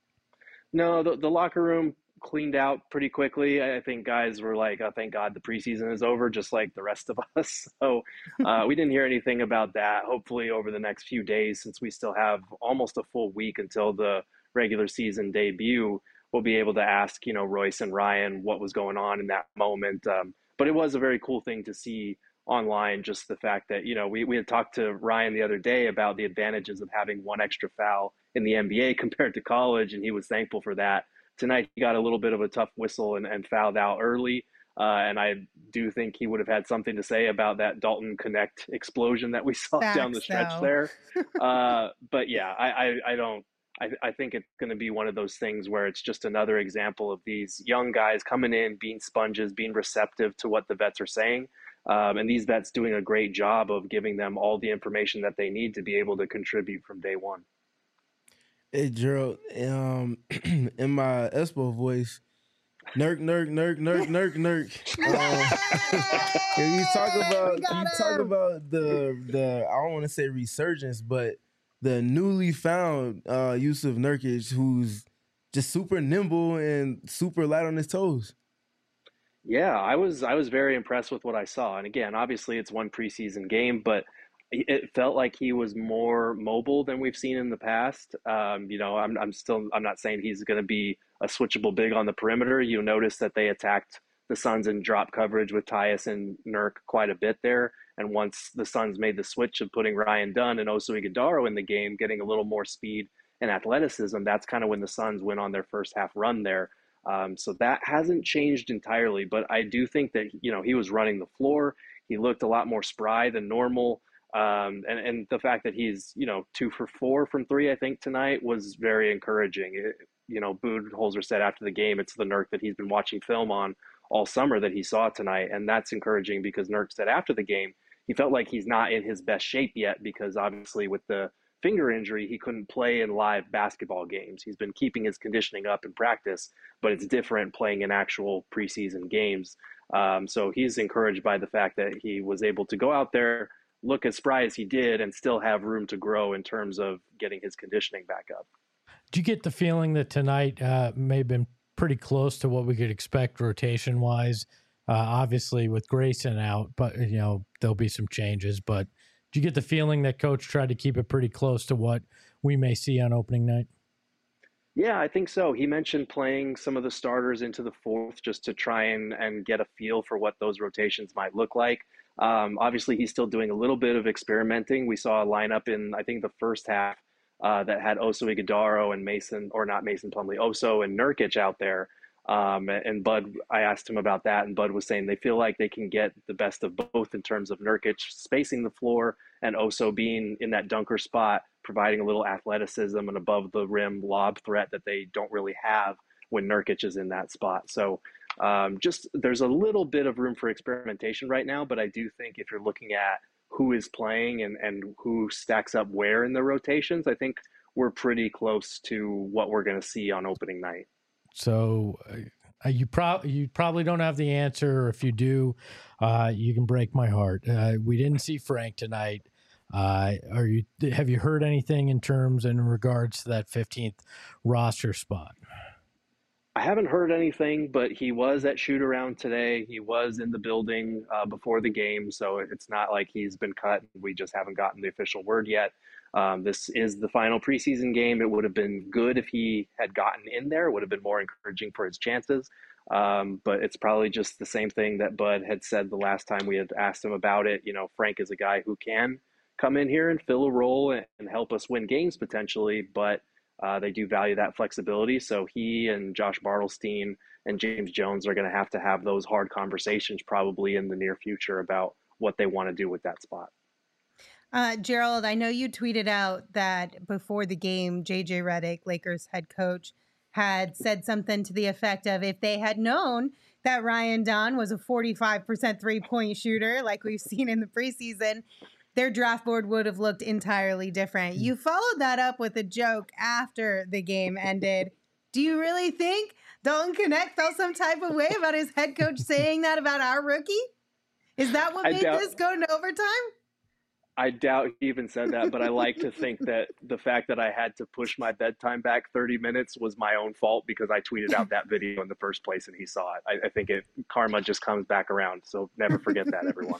No, the, the locker room cleaned out pretty quickly. I think guys were like, oh, thank God the preseason is over, just like the rest of us. So uh, we didn't hear anything about that. Hopefully over the next few days, since we still have almost a full week until the regular season debut, we'll be able to ask, you know, Royce and Ryan what was going on in that moment. Um, but it was a very cool thing to see online, just the fact that, you know, we, we had talked to Ryan the other day about the advantages of having one extra foul in the N B A compared to college, and he was thankful for that. Tonight, he got a little bit of a tough whistle and, and fouled out early, uh, and I do think he would have had something to say about that Dalton Connect explosion that we saw Facts, down the stretch though. there. Uh, but yeah, I, I, I don't, I, I think it's going to be one of those things where it's just another example of these young guys coming in, being sponges, being receptive to what the vets are saying. Um, and these vets doing a great job of giving them all the information that they need to be able to contribute from day one. Hey, Gerald, um, in my Espo voice, Nurk, Nurk, Nurk, Nurk, Nurk, Nurk. Um, can you talk about can you talk about the the I don't want to say resurgence, but the newly found uh, Yusuf Nurkic, who's just super nimble and super light on his toes. Yeah, I was I was very impressed with what I saw. And again, obviously it's one preseason game, but it felt like he was more mobile than we've seen in the past. Um, you know, I'm I'm still I'm not saying he's going to be a switchable big on the perimeter. You'll notice that they attacked the Suns in drop coverage with Tyus and Nurk quite a bit there. And once the Suns made the switch of putting Ryan Dunn and Oso Ighodaro in the game, getting a little more speed and athleticism, that's kind of when the Suns went on their first half run there. Um, so that hasn't changed entirely, but I do think that, you know, he was running the floor. He looked a lot more spry than normal. Um, and, and the fact that he's, you know, two for four from three, I think tonight was very encouraging. It, you know, Budenholzer said after the game, it's the Nurk that he's been watching film on all summer that he saw tonight. And that's encouraging because Nurk said after the game, he felt like he's not in his best shape yet because obviously with the finger injury, he couldn't play in live basketball games. He's been keeping his conditioning up in practice, but it's different playing in actual preseason games. Um, so he's encouraged by the fact that he was able to go out there, look as spry as he did, and still have room to grow in terms of getting his conditioning back up. Do you get the feeling that tonight uh, may have been pretty close to what we could expect rotation-wise? Uh, obviously, with Grayson out, but you know there'll be some changes, but do you get the feeling that Coach tried to keep it pretty close to what we may see on opening night? Yeah, I think so. He mentioned playing some of the starters into the fourth just to try and, and get a feel for what those rotations might look like. Um, obviously, he's still doing a little bit of experimenting. We saw a lineup in, I think, the first half uh, that had Oso Ighodaro and Mason, or not Mason Plumlee, Oso and Nurkic out there. Um, and Bud, I asked him about that, and Bud was saying they feel like they can get the best of both in terms of Nurkic spacing the floor and Oso being in that dunker spot, providing a little athleticism and above the rim lob threat that they don't really have when Nurkic is in that spot. So um, just there's a little bit of room for experimentation right now, but I do think if you're looking at who is playing and, and who stacks up where in the rotations, I think we're pretty close to what we're going to see on opening night. So uh, you, pro- you probably don't have the answer, or if you do, uh, you can break my heart. Uh, we didn't see Frank tonight. Uh, are you? Have you heard anything in terms in regards to that fifteenth roster spot? I haven't heard anything, but he was at shoot around today. He was in the building uh, before the game, so it's not like he's been cut. We just haven't gotten the official word yet. Um, this is the final preseason game. It would have been good if he had gotten in there. It would have been more encouraging for his chances. Um, but it's probably just the same thing that Bud had said the last time we had asked him about it. You know, Frank is a guy who can come in here and fill a role and, and help us win games potentially, but Uh, they do value that flexibility. So he and Josh Bartelstein and James Jones are going to have to have those hard conversations probably in the near future about what they want to do with that spot. Uh, Gerald, I know you tweeted out that before the game, J J Redick, Lakers head coach, had said something to the effect of, if they had known that Ryan Don was a forty-five percent three-point shooter like we've seen in the preseason, their draft board would have looked entirely different. You followed that up with a joke after the game ended. Do you really think Dalton Knecht felt some type of way about his head coach saying that about our rookie? Is that what I made doubt- this go into overtime? I doubt he even said that, but I like to think that the fact that I had to push my bedtime back thirty minutes was my own fault because I tweeted out that video in the first place and he saw it. I, I think it karma just comes back around. So never forget that, everyone.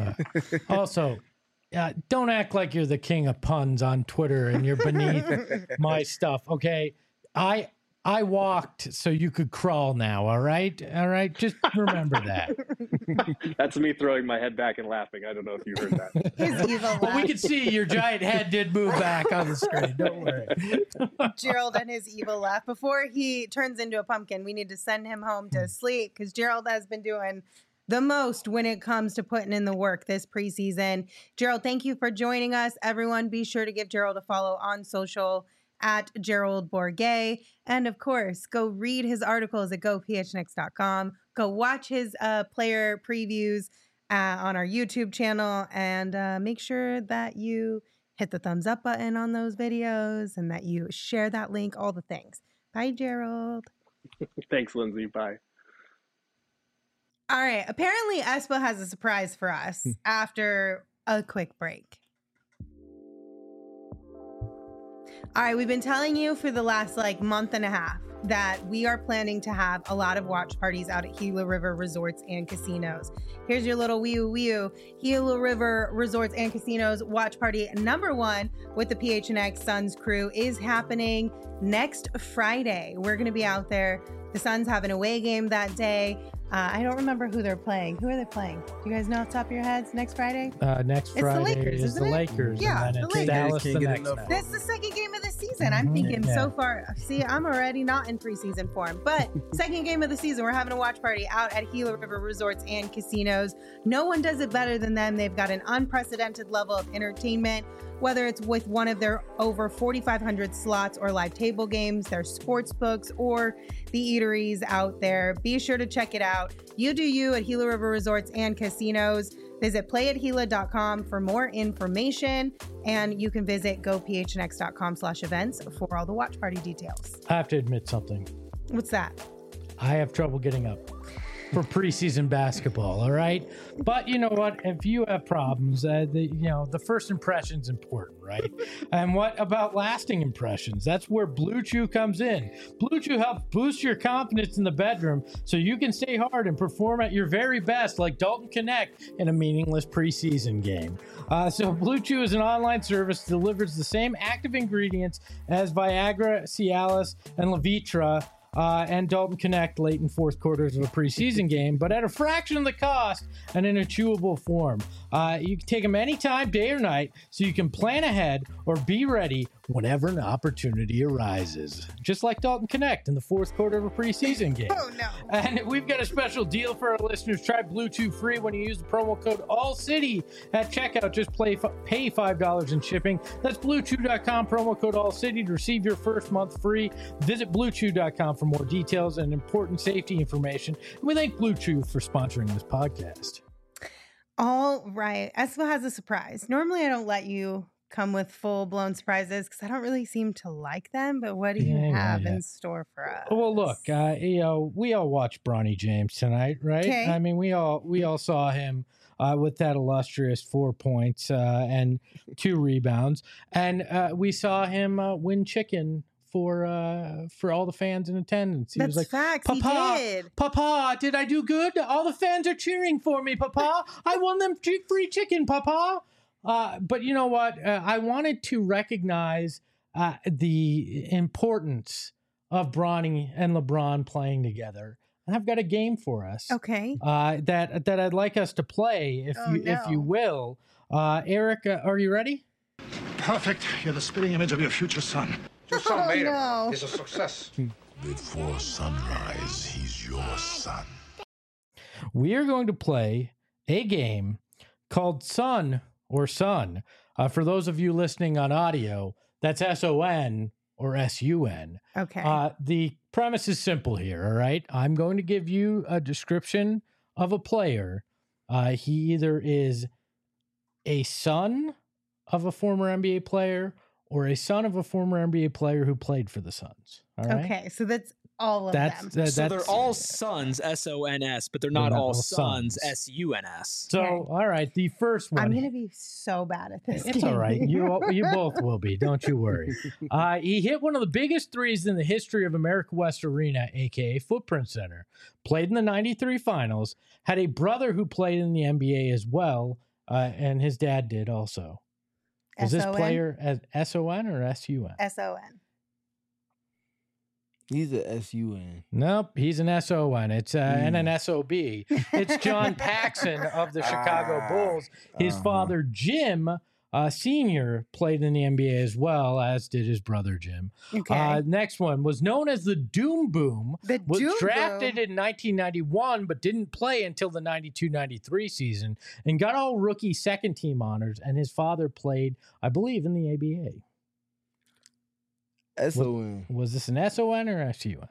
Uh, also, uh, don't act like you're the king of puns on Twitter and you're beneath my stuff. Okay. I, I walked so you could crawl now. All right. All right. Just remember that. That's me throwing my head back and laughing. I don't know if you heard that. His evil Well, we laugh. can see your giant head did move back on the screen. Don't worry. Gerald and his evil laugh. Before he turns into a pumpkin, we need to send him home to sleep because Gerald has been doing the most when it comes to putting in the work this preseason. Gerald, thank you for joining us. Everyone, be sure to give Gerald a follow on social at Gerald Bourguet. And of course, go read his articles at go p h n x dot com. Go watch his uh, player previews uh, on our YouTube channel, and uh, make sure that you hit the thumbs up button on those videos and that you share that link, all the things. Bye, Gerald. Thanks, Lindsay. Bye. All right. Apparently, Espo has a surprise for us after a quick break. All right. We've been telling you for the last like month and a half that we are planning to have a lot of watch parties out at Gila River Resorts and Casinos. Here's your little wee wee Gila River Resorts and Casinos watch party number one with the P H N X Suns crew is happening next Friday. We're going to be out there. The Suns have an away game that day. Uh, I don't remember who they're playing. Who are they playing? Do you guys know off the top of your heads next Friday? Uh, next It's the Friday Lakers, is isn't the it? Lakers. Yeah, and then the it's Lakers. Dallas Can't the get next enough. night. That's the second game of the season. I'm thinking Yeah. so far. See, I'm already not in preseason form. But second game of the season, we're having a watch party out at Gila River Resorts and Casinos. No one does it better than them. They've got an unprecedented level of entertainment, whether it's with one of their over forty-five hundred slots or live table games, their sports books, or the eateries out there. Be sure to check it out. You do you at Gila River Resorts and Casinos. Visit play at gila dot com for more information, and you can visit go p h n x dot com slash events for all the watch party details. I have to admit something. What's that? I have trouble getting up for preseason basketball, all right? But you know what? If you have problems, uh, the, you know, the first impression's important, right? And what about lasting impressions? That's where Blue Chew comes in. Blue Chew helps boost your confidence in the bedroom so you can stay hard and perform at your very best like Dalton Knecht in a meaningless preseason game. Uh, so Blue Chew is an online service that delivers the same active ingredients as Viagra, Cialis, and Levitra, Uh, and Dalton Knecht late in fourth quarters of a preseason game, but at a fraction of the cost and in a chewable form. Uh, you can take them anytime, day or night, so you can plan ahead or be ready whenever an opportunity arises. Just like Dalton Connect in the fourth quarter of a preseason game. Oh, no. And we've got a special deal for our listeners. Try Blue Chew free when you use the promo code ALLCITY at checkout. Just play, pay five dollars in shipping. That's blue chew dot com, promo code ALLCITY to receive your first month free. Visit blue chew dot com for more details and important safety information. And we thank Blue Chew for sponsoring this podcast. All right. Espo has a surprise. Normally, I don't let you come with full-blown surprises because I don't really seem to like them, but what do you Yeah, have yeah. in store for us? Well, look, uh, you know, we all watched Bronny James tonight, right? Okay. I mean, we all we all saw him uh, with that illustrious four points uh, and two rebounds, and uh, we saw him uh, win chicken for uh, for all the fans in attendance. He That's was like, facts. "Papa, He did. Papa, did I do good? All the fans are cheering for me, Papa. I won them chi- free chicken, Papa." Uh, but you know what? Uh, I wanted to recognize uh, the importance of Bronny and LeBron playing together, and I've got a game for us. Okay. Uh, that that I'd like us to play, if Oh, you if you no. will. Uh, Eric, uh, are you ready? Perfect. You're the spitting image of your future son. Your son, oh, Mayor, no. is a success. Before sunrise, he's your son. We are going to play a game called Son or Son. Uh, for those of you listening on audio, that's S O N or S U N. Okay. Uh, the premise is simple here, all right? I'm going to give you a description of a player. Uh, he either is a son of a former N B A player or a son of a former N B A player who played for the Suns. All right. Okay. So that's all of That's them. that, So that's they're all sons, S O N S, but they're not, all sons, S U N S. So, Okay. all right, the first one. I'm going to be so bad at this. It's game. all right. You you both will be. Don't you worry. Uh, he hit one of the biggest threes in the history of America West Arena, a k a. Footprint Center. Played in the ninety-three finals. Had a brother who played in the N B A as well, uh, and his dad did also. Was this S O N? player as S O N or S U N? S O N. He's a S U N. Nope, he's an S O N. It's uh, and an Mm. S O B. It's John Paxson of the Chicago Ah, Bulls. His uh-huh. father, Jim uh, Senior, played in the N B A as well, as did his brother, Jim. Okay. Uh, next one was known as the Doom Boom. The Was Doom drafted Boom. in nineteen ninety-one, but didn't play until the ninety-two ninety-three season and got all rookie second team honors. And his father played, I believe, in the A B A. S O N. Was this an S O N or S U N?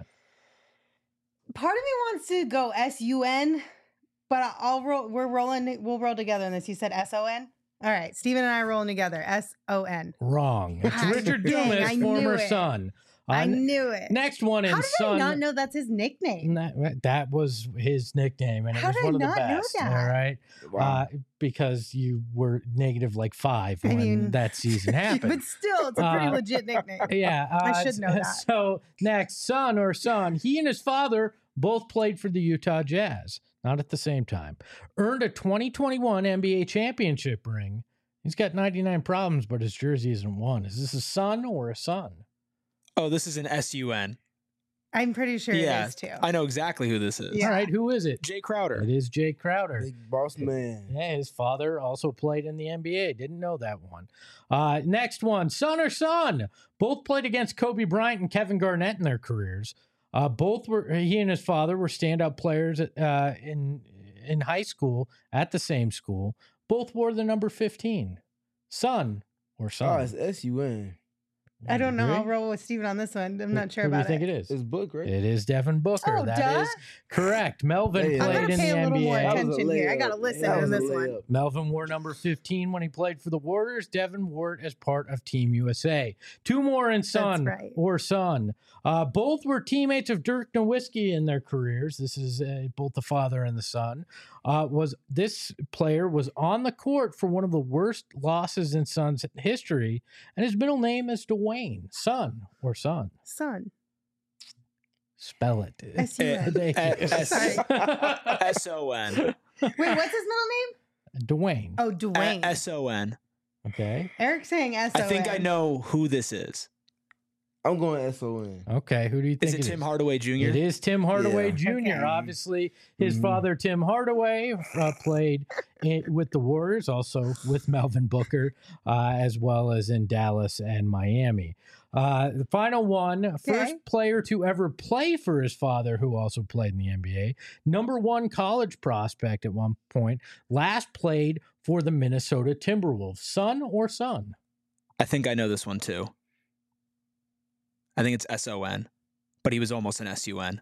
Part of me wants to go S U N, but I'll roll. We're rolling. We'll roll together in this. You said S O N. All right, Steven and I are rolling together. S O N. Wrong. It's Ah, Richard dang, Dumas, I knew former it. son. I Uh, knew it. Next one in How did son. I not know that's his nickname? That, that was his nickname, and How it was did one I of the not know best. that? All right, Wow. uh, because you were negative like five I when mean, that season happened. but still, it's a pretty Uh, legit nickname. Yeah, uh, I should know that. So next, son or son, he and his father both played for the Utah Jazz, not at the same time. Earned a twenty twenty-one N B A championship ring. He's got ninety-nine problems, but his jersey isn't one. Is this a son or a son? Oh, this is an S U N. I'm pretty sure Yeah, it is too. I know exactly who this is. Yeah. All right, who is it? Jay Crowder. It is Jay Crowder. Big boss man. Yeah, his father also played in the N B A. Didn't know that one. Uh, next one, son or son. Both played against Kobe Bryant and Kevin Garnett in their careers. Uh, both were he and his father were standout players uh, in in high school at the same school. Both wore the number fifteen. Son or Oh, son. it's S U N. I don't know. Agree? I'll roll with Steven on this one. I'm not sure Who do about you think it. it is? It's Book, right? It is Devin Booker. Oh, That duh. is correct. Melvin Hey, I'm played gonna in pay the a little N B A. more That was a attention here. I layup. gotta listen That to was a this one. layup. Melvin wore number fifteen when he played for the Warriors. Devin wore it as part of Team U S A. Two more in son right. or son. Uh, both were teammates of Dirk Nowitzki in their careers. This is uh, both the father and the son. Uh, was this player was on the court for one of the worst losses in Suns history, and his middle name is Dwayne. Son or son. Son. Spell it. S U N. Thank you. Sorry. S O N. Wait, what's his middle name? Dwayne. Oh, Dwayne. S O N. Okay. Eric's saying S O I N. think I know who this is. I'm going S O N. Okay, who do you think Is it it Tim Hardaway Junior? It is Tim Hardaway Yeah. Junior Okay. Obviously, his Mhm. father, Tim Hardaway, uh, played in, with the Warriors, also with Melvin Booker, uh, as well as in Dallas and Miami. Uh, the final one, first Okay. player to ever play for his father, who also played in the N B A. Number one college prospect at one point. Last played for the Minnesota Timberwolves. Son or son? I think I know this one too. I think it's S O N, but he was almost an S U N.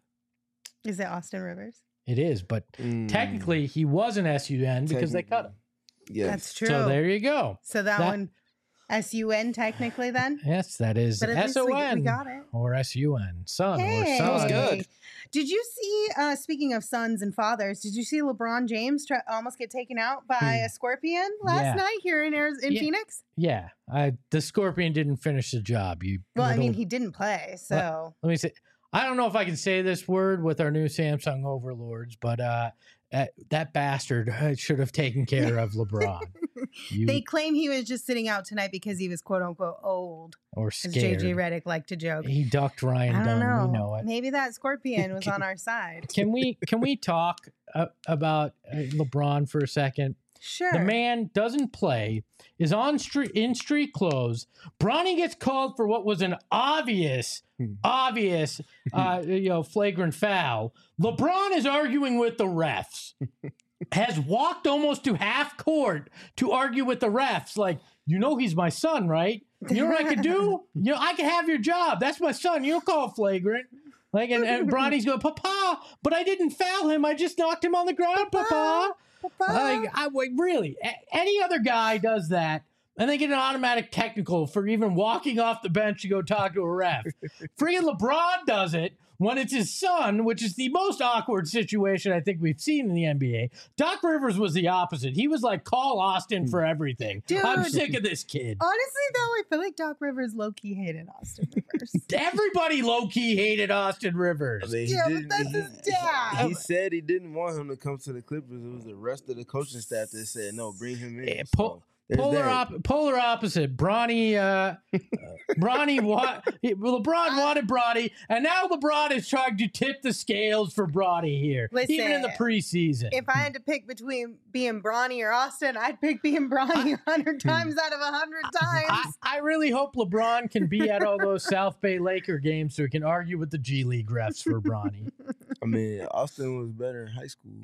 Is it Austin Rivers? It is, but Mm, technically he was an S U N because they cut him. Yes. That's true. So there you go. So that, That- one, S U N technically then? Yes, that is But at least S we- O we N got it. or S U N, son Hey. or son. That was good. Did you see, uh, speaking of sons and fathers, did you see LeBron James try, almost get taken out by Hmm. a scorpion last Yeah. night here in, Ariz- in Yeah. Phoenix? Yeah, I, the Scorpion didn't finish the job. You Well, I mean, little- he didn't play, so. let me say, I don't know if I can say this word with our new Samsung overlords, but uh, uh, that bastard uh, should have taken care of LeBron. You They claim he was just sitting out tonight because he was quote unquote old, or as J scared. J Redick liked to joke. He ducked Ryan I don't Dunn. know. We know it. Maybe that scorpion was on our side. Can we can we talk uh, about uh, LeBron for a second? Sure. The man doesn't play, is on street in street clothes. Bronny gets called for what was an obvious, obvious, uh, you know, flagrant foul. LeBron is arguing with the refs. Has walked almost to half court to argue with the refs. Like, you know, he's my son, right? You know what I could do? You know, I can have your job. That's my son. You don't call it flagrant. Like, and, and Bronny's going, Papa, but I didn't foul him. I just knocked him on the ground, Papa. Papa. Like, I wait, really, a- any other guy does that, and they get an automatic technical for even walking off the bench to go talk to a ref. Friggin' LeBron does it when it's his son, which is the most awkward situation I think we've seen in the N B A. Doc Rivers was the opposite. He was like, call Austin for everything. I'm Dude. sick of this kid. Honestly, though, I feel like Doc Rivers low key hated Austin Rivers. Everybody low-key hated Austin I Rivers. mean, he Yeah, but didn't- that's he- his dad. He said he didn't want him to come to the Clippers. It was the rest of the coaching staff that said, no, bring him in. Yeah, So, po- there's Polar, that. op- polar opposite. Bronny, uh, uh, Bronny, wa- he- LeBron wanted Bronny, and now LeBron is trying to tip the scales for Bronny here, even in the Listen, preseason. If I had to pick between being Bronny or Austin, I'd pick being Bronny a hundred times out of a hundred I, times. I really hope LeBron can be at all those South Bay Laker games so he can argue with the G League refs for Bronny. I mean, Austin was better in high school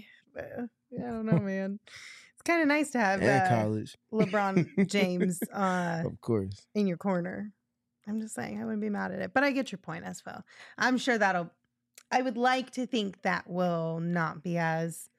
But, yeah, I don't know, man. It's kind of nice to have and uh, college. LeBron James uh, Of course. in your corner. I'm just saying, I wouldn't be mad at it. But I get your point, Espo. I'm sure that'll, I would like to think that will not be as,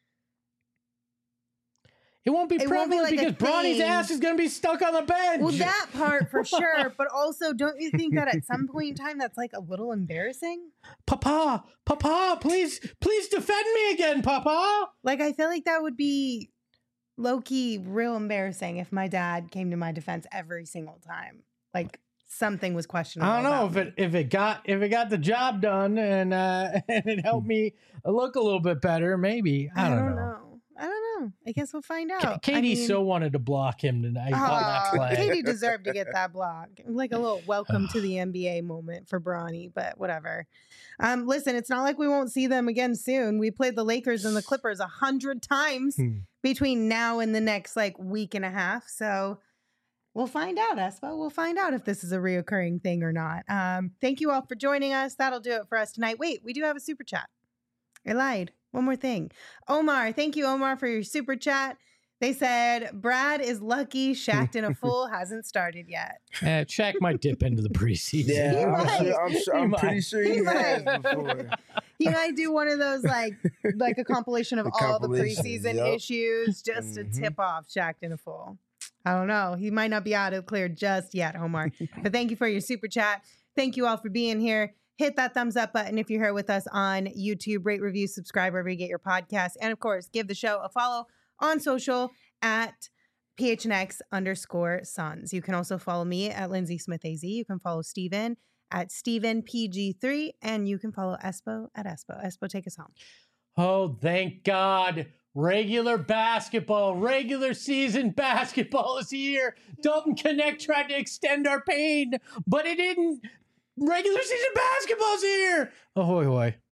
It won't be It won't be prevalent like a because Bronny's thing. ass is going to be stuck on the bench. well, that part for sure. But also, don't you think that at some point in time, that's like a little embarrassing? Papa, Papa, please, please defend me again, Papa. Like, I feel like that would be low key real embarrassing if my dad came to my defense every single time. Like, something was questionable. I don't know about if it if it got if it got the job done and uh, and it helped me look a little bit better. Maybe I, I don't, don't know. know. I don't know. I guess we'll find K- out. Katie I mean, so wanted to block him tonight on that Aw, play. Katie deserved to get that block. Like a little welcome to the N B A moment for Bronny, but whatever. Um, listen, it's not like we won't see them again soon. We played the Lakers and the Clippers a hundred times Hmm. between now and the next like week and a half. So we'll find out, Espo. We'll find out if this is a reoccurring thing or not. Um, thank you all for joining us. That'll do it for us tonight. Wait, we do have a super chat. I lied. One more thing. Omar, thank you, Omar, for your super chat. They said, Brad is lucky Shacked in a Fool hasn't started yet. Uh, Shaq might dip into the preseason. Yeah, He I'm, might. sure, I'm, sure, He I'm might. pretty sure He he, has might. before. He might do one of those like like a compilation of The all the compilation, preseason yep. issues just Mhm. to tip off Shacked in a Fool. I don't know. He might not be out of clear just yet, Omar. But thank you for your super chat. Thank you all for being here. Hit that thumbs up button if you're here with us on YouTube. Rate, review, subscribe wherever you get your podcasts. And of course, give the show a follow on social at P H N X underscore Sons. You can also follow me at Lindsay Smith A Z. You can follow Steven at Steven P G three. And you can follow Espo at Espo. Espo, take us home. Oh, thank God Regular basketball, regular season basketball is here. Dalton Connect tried to extend our pain, but it didn't. Regular season basketball's here. Ahoy, hoy.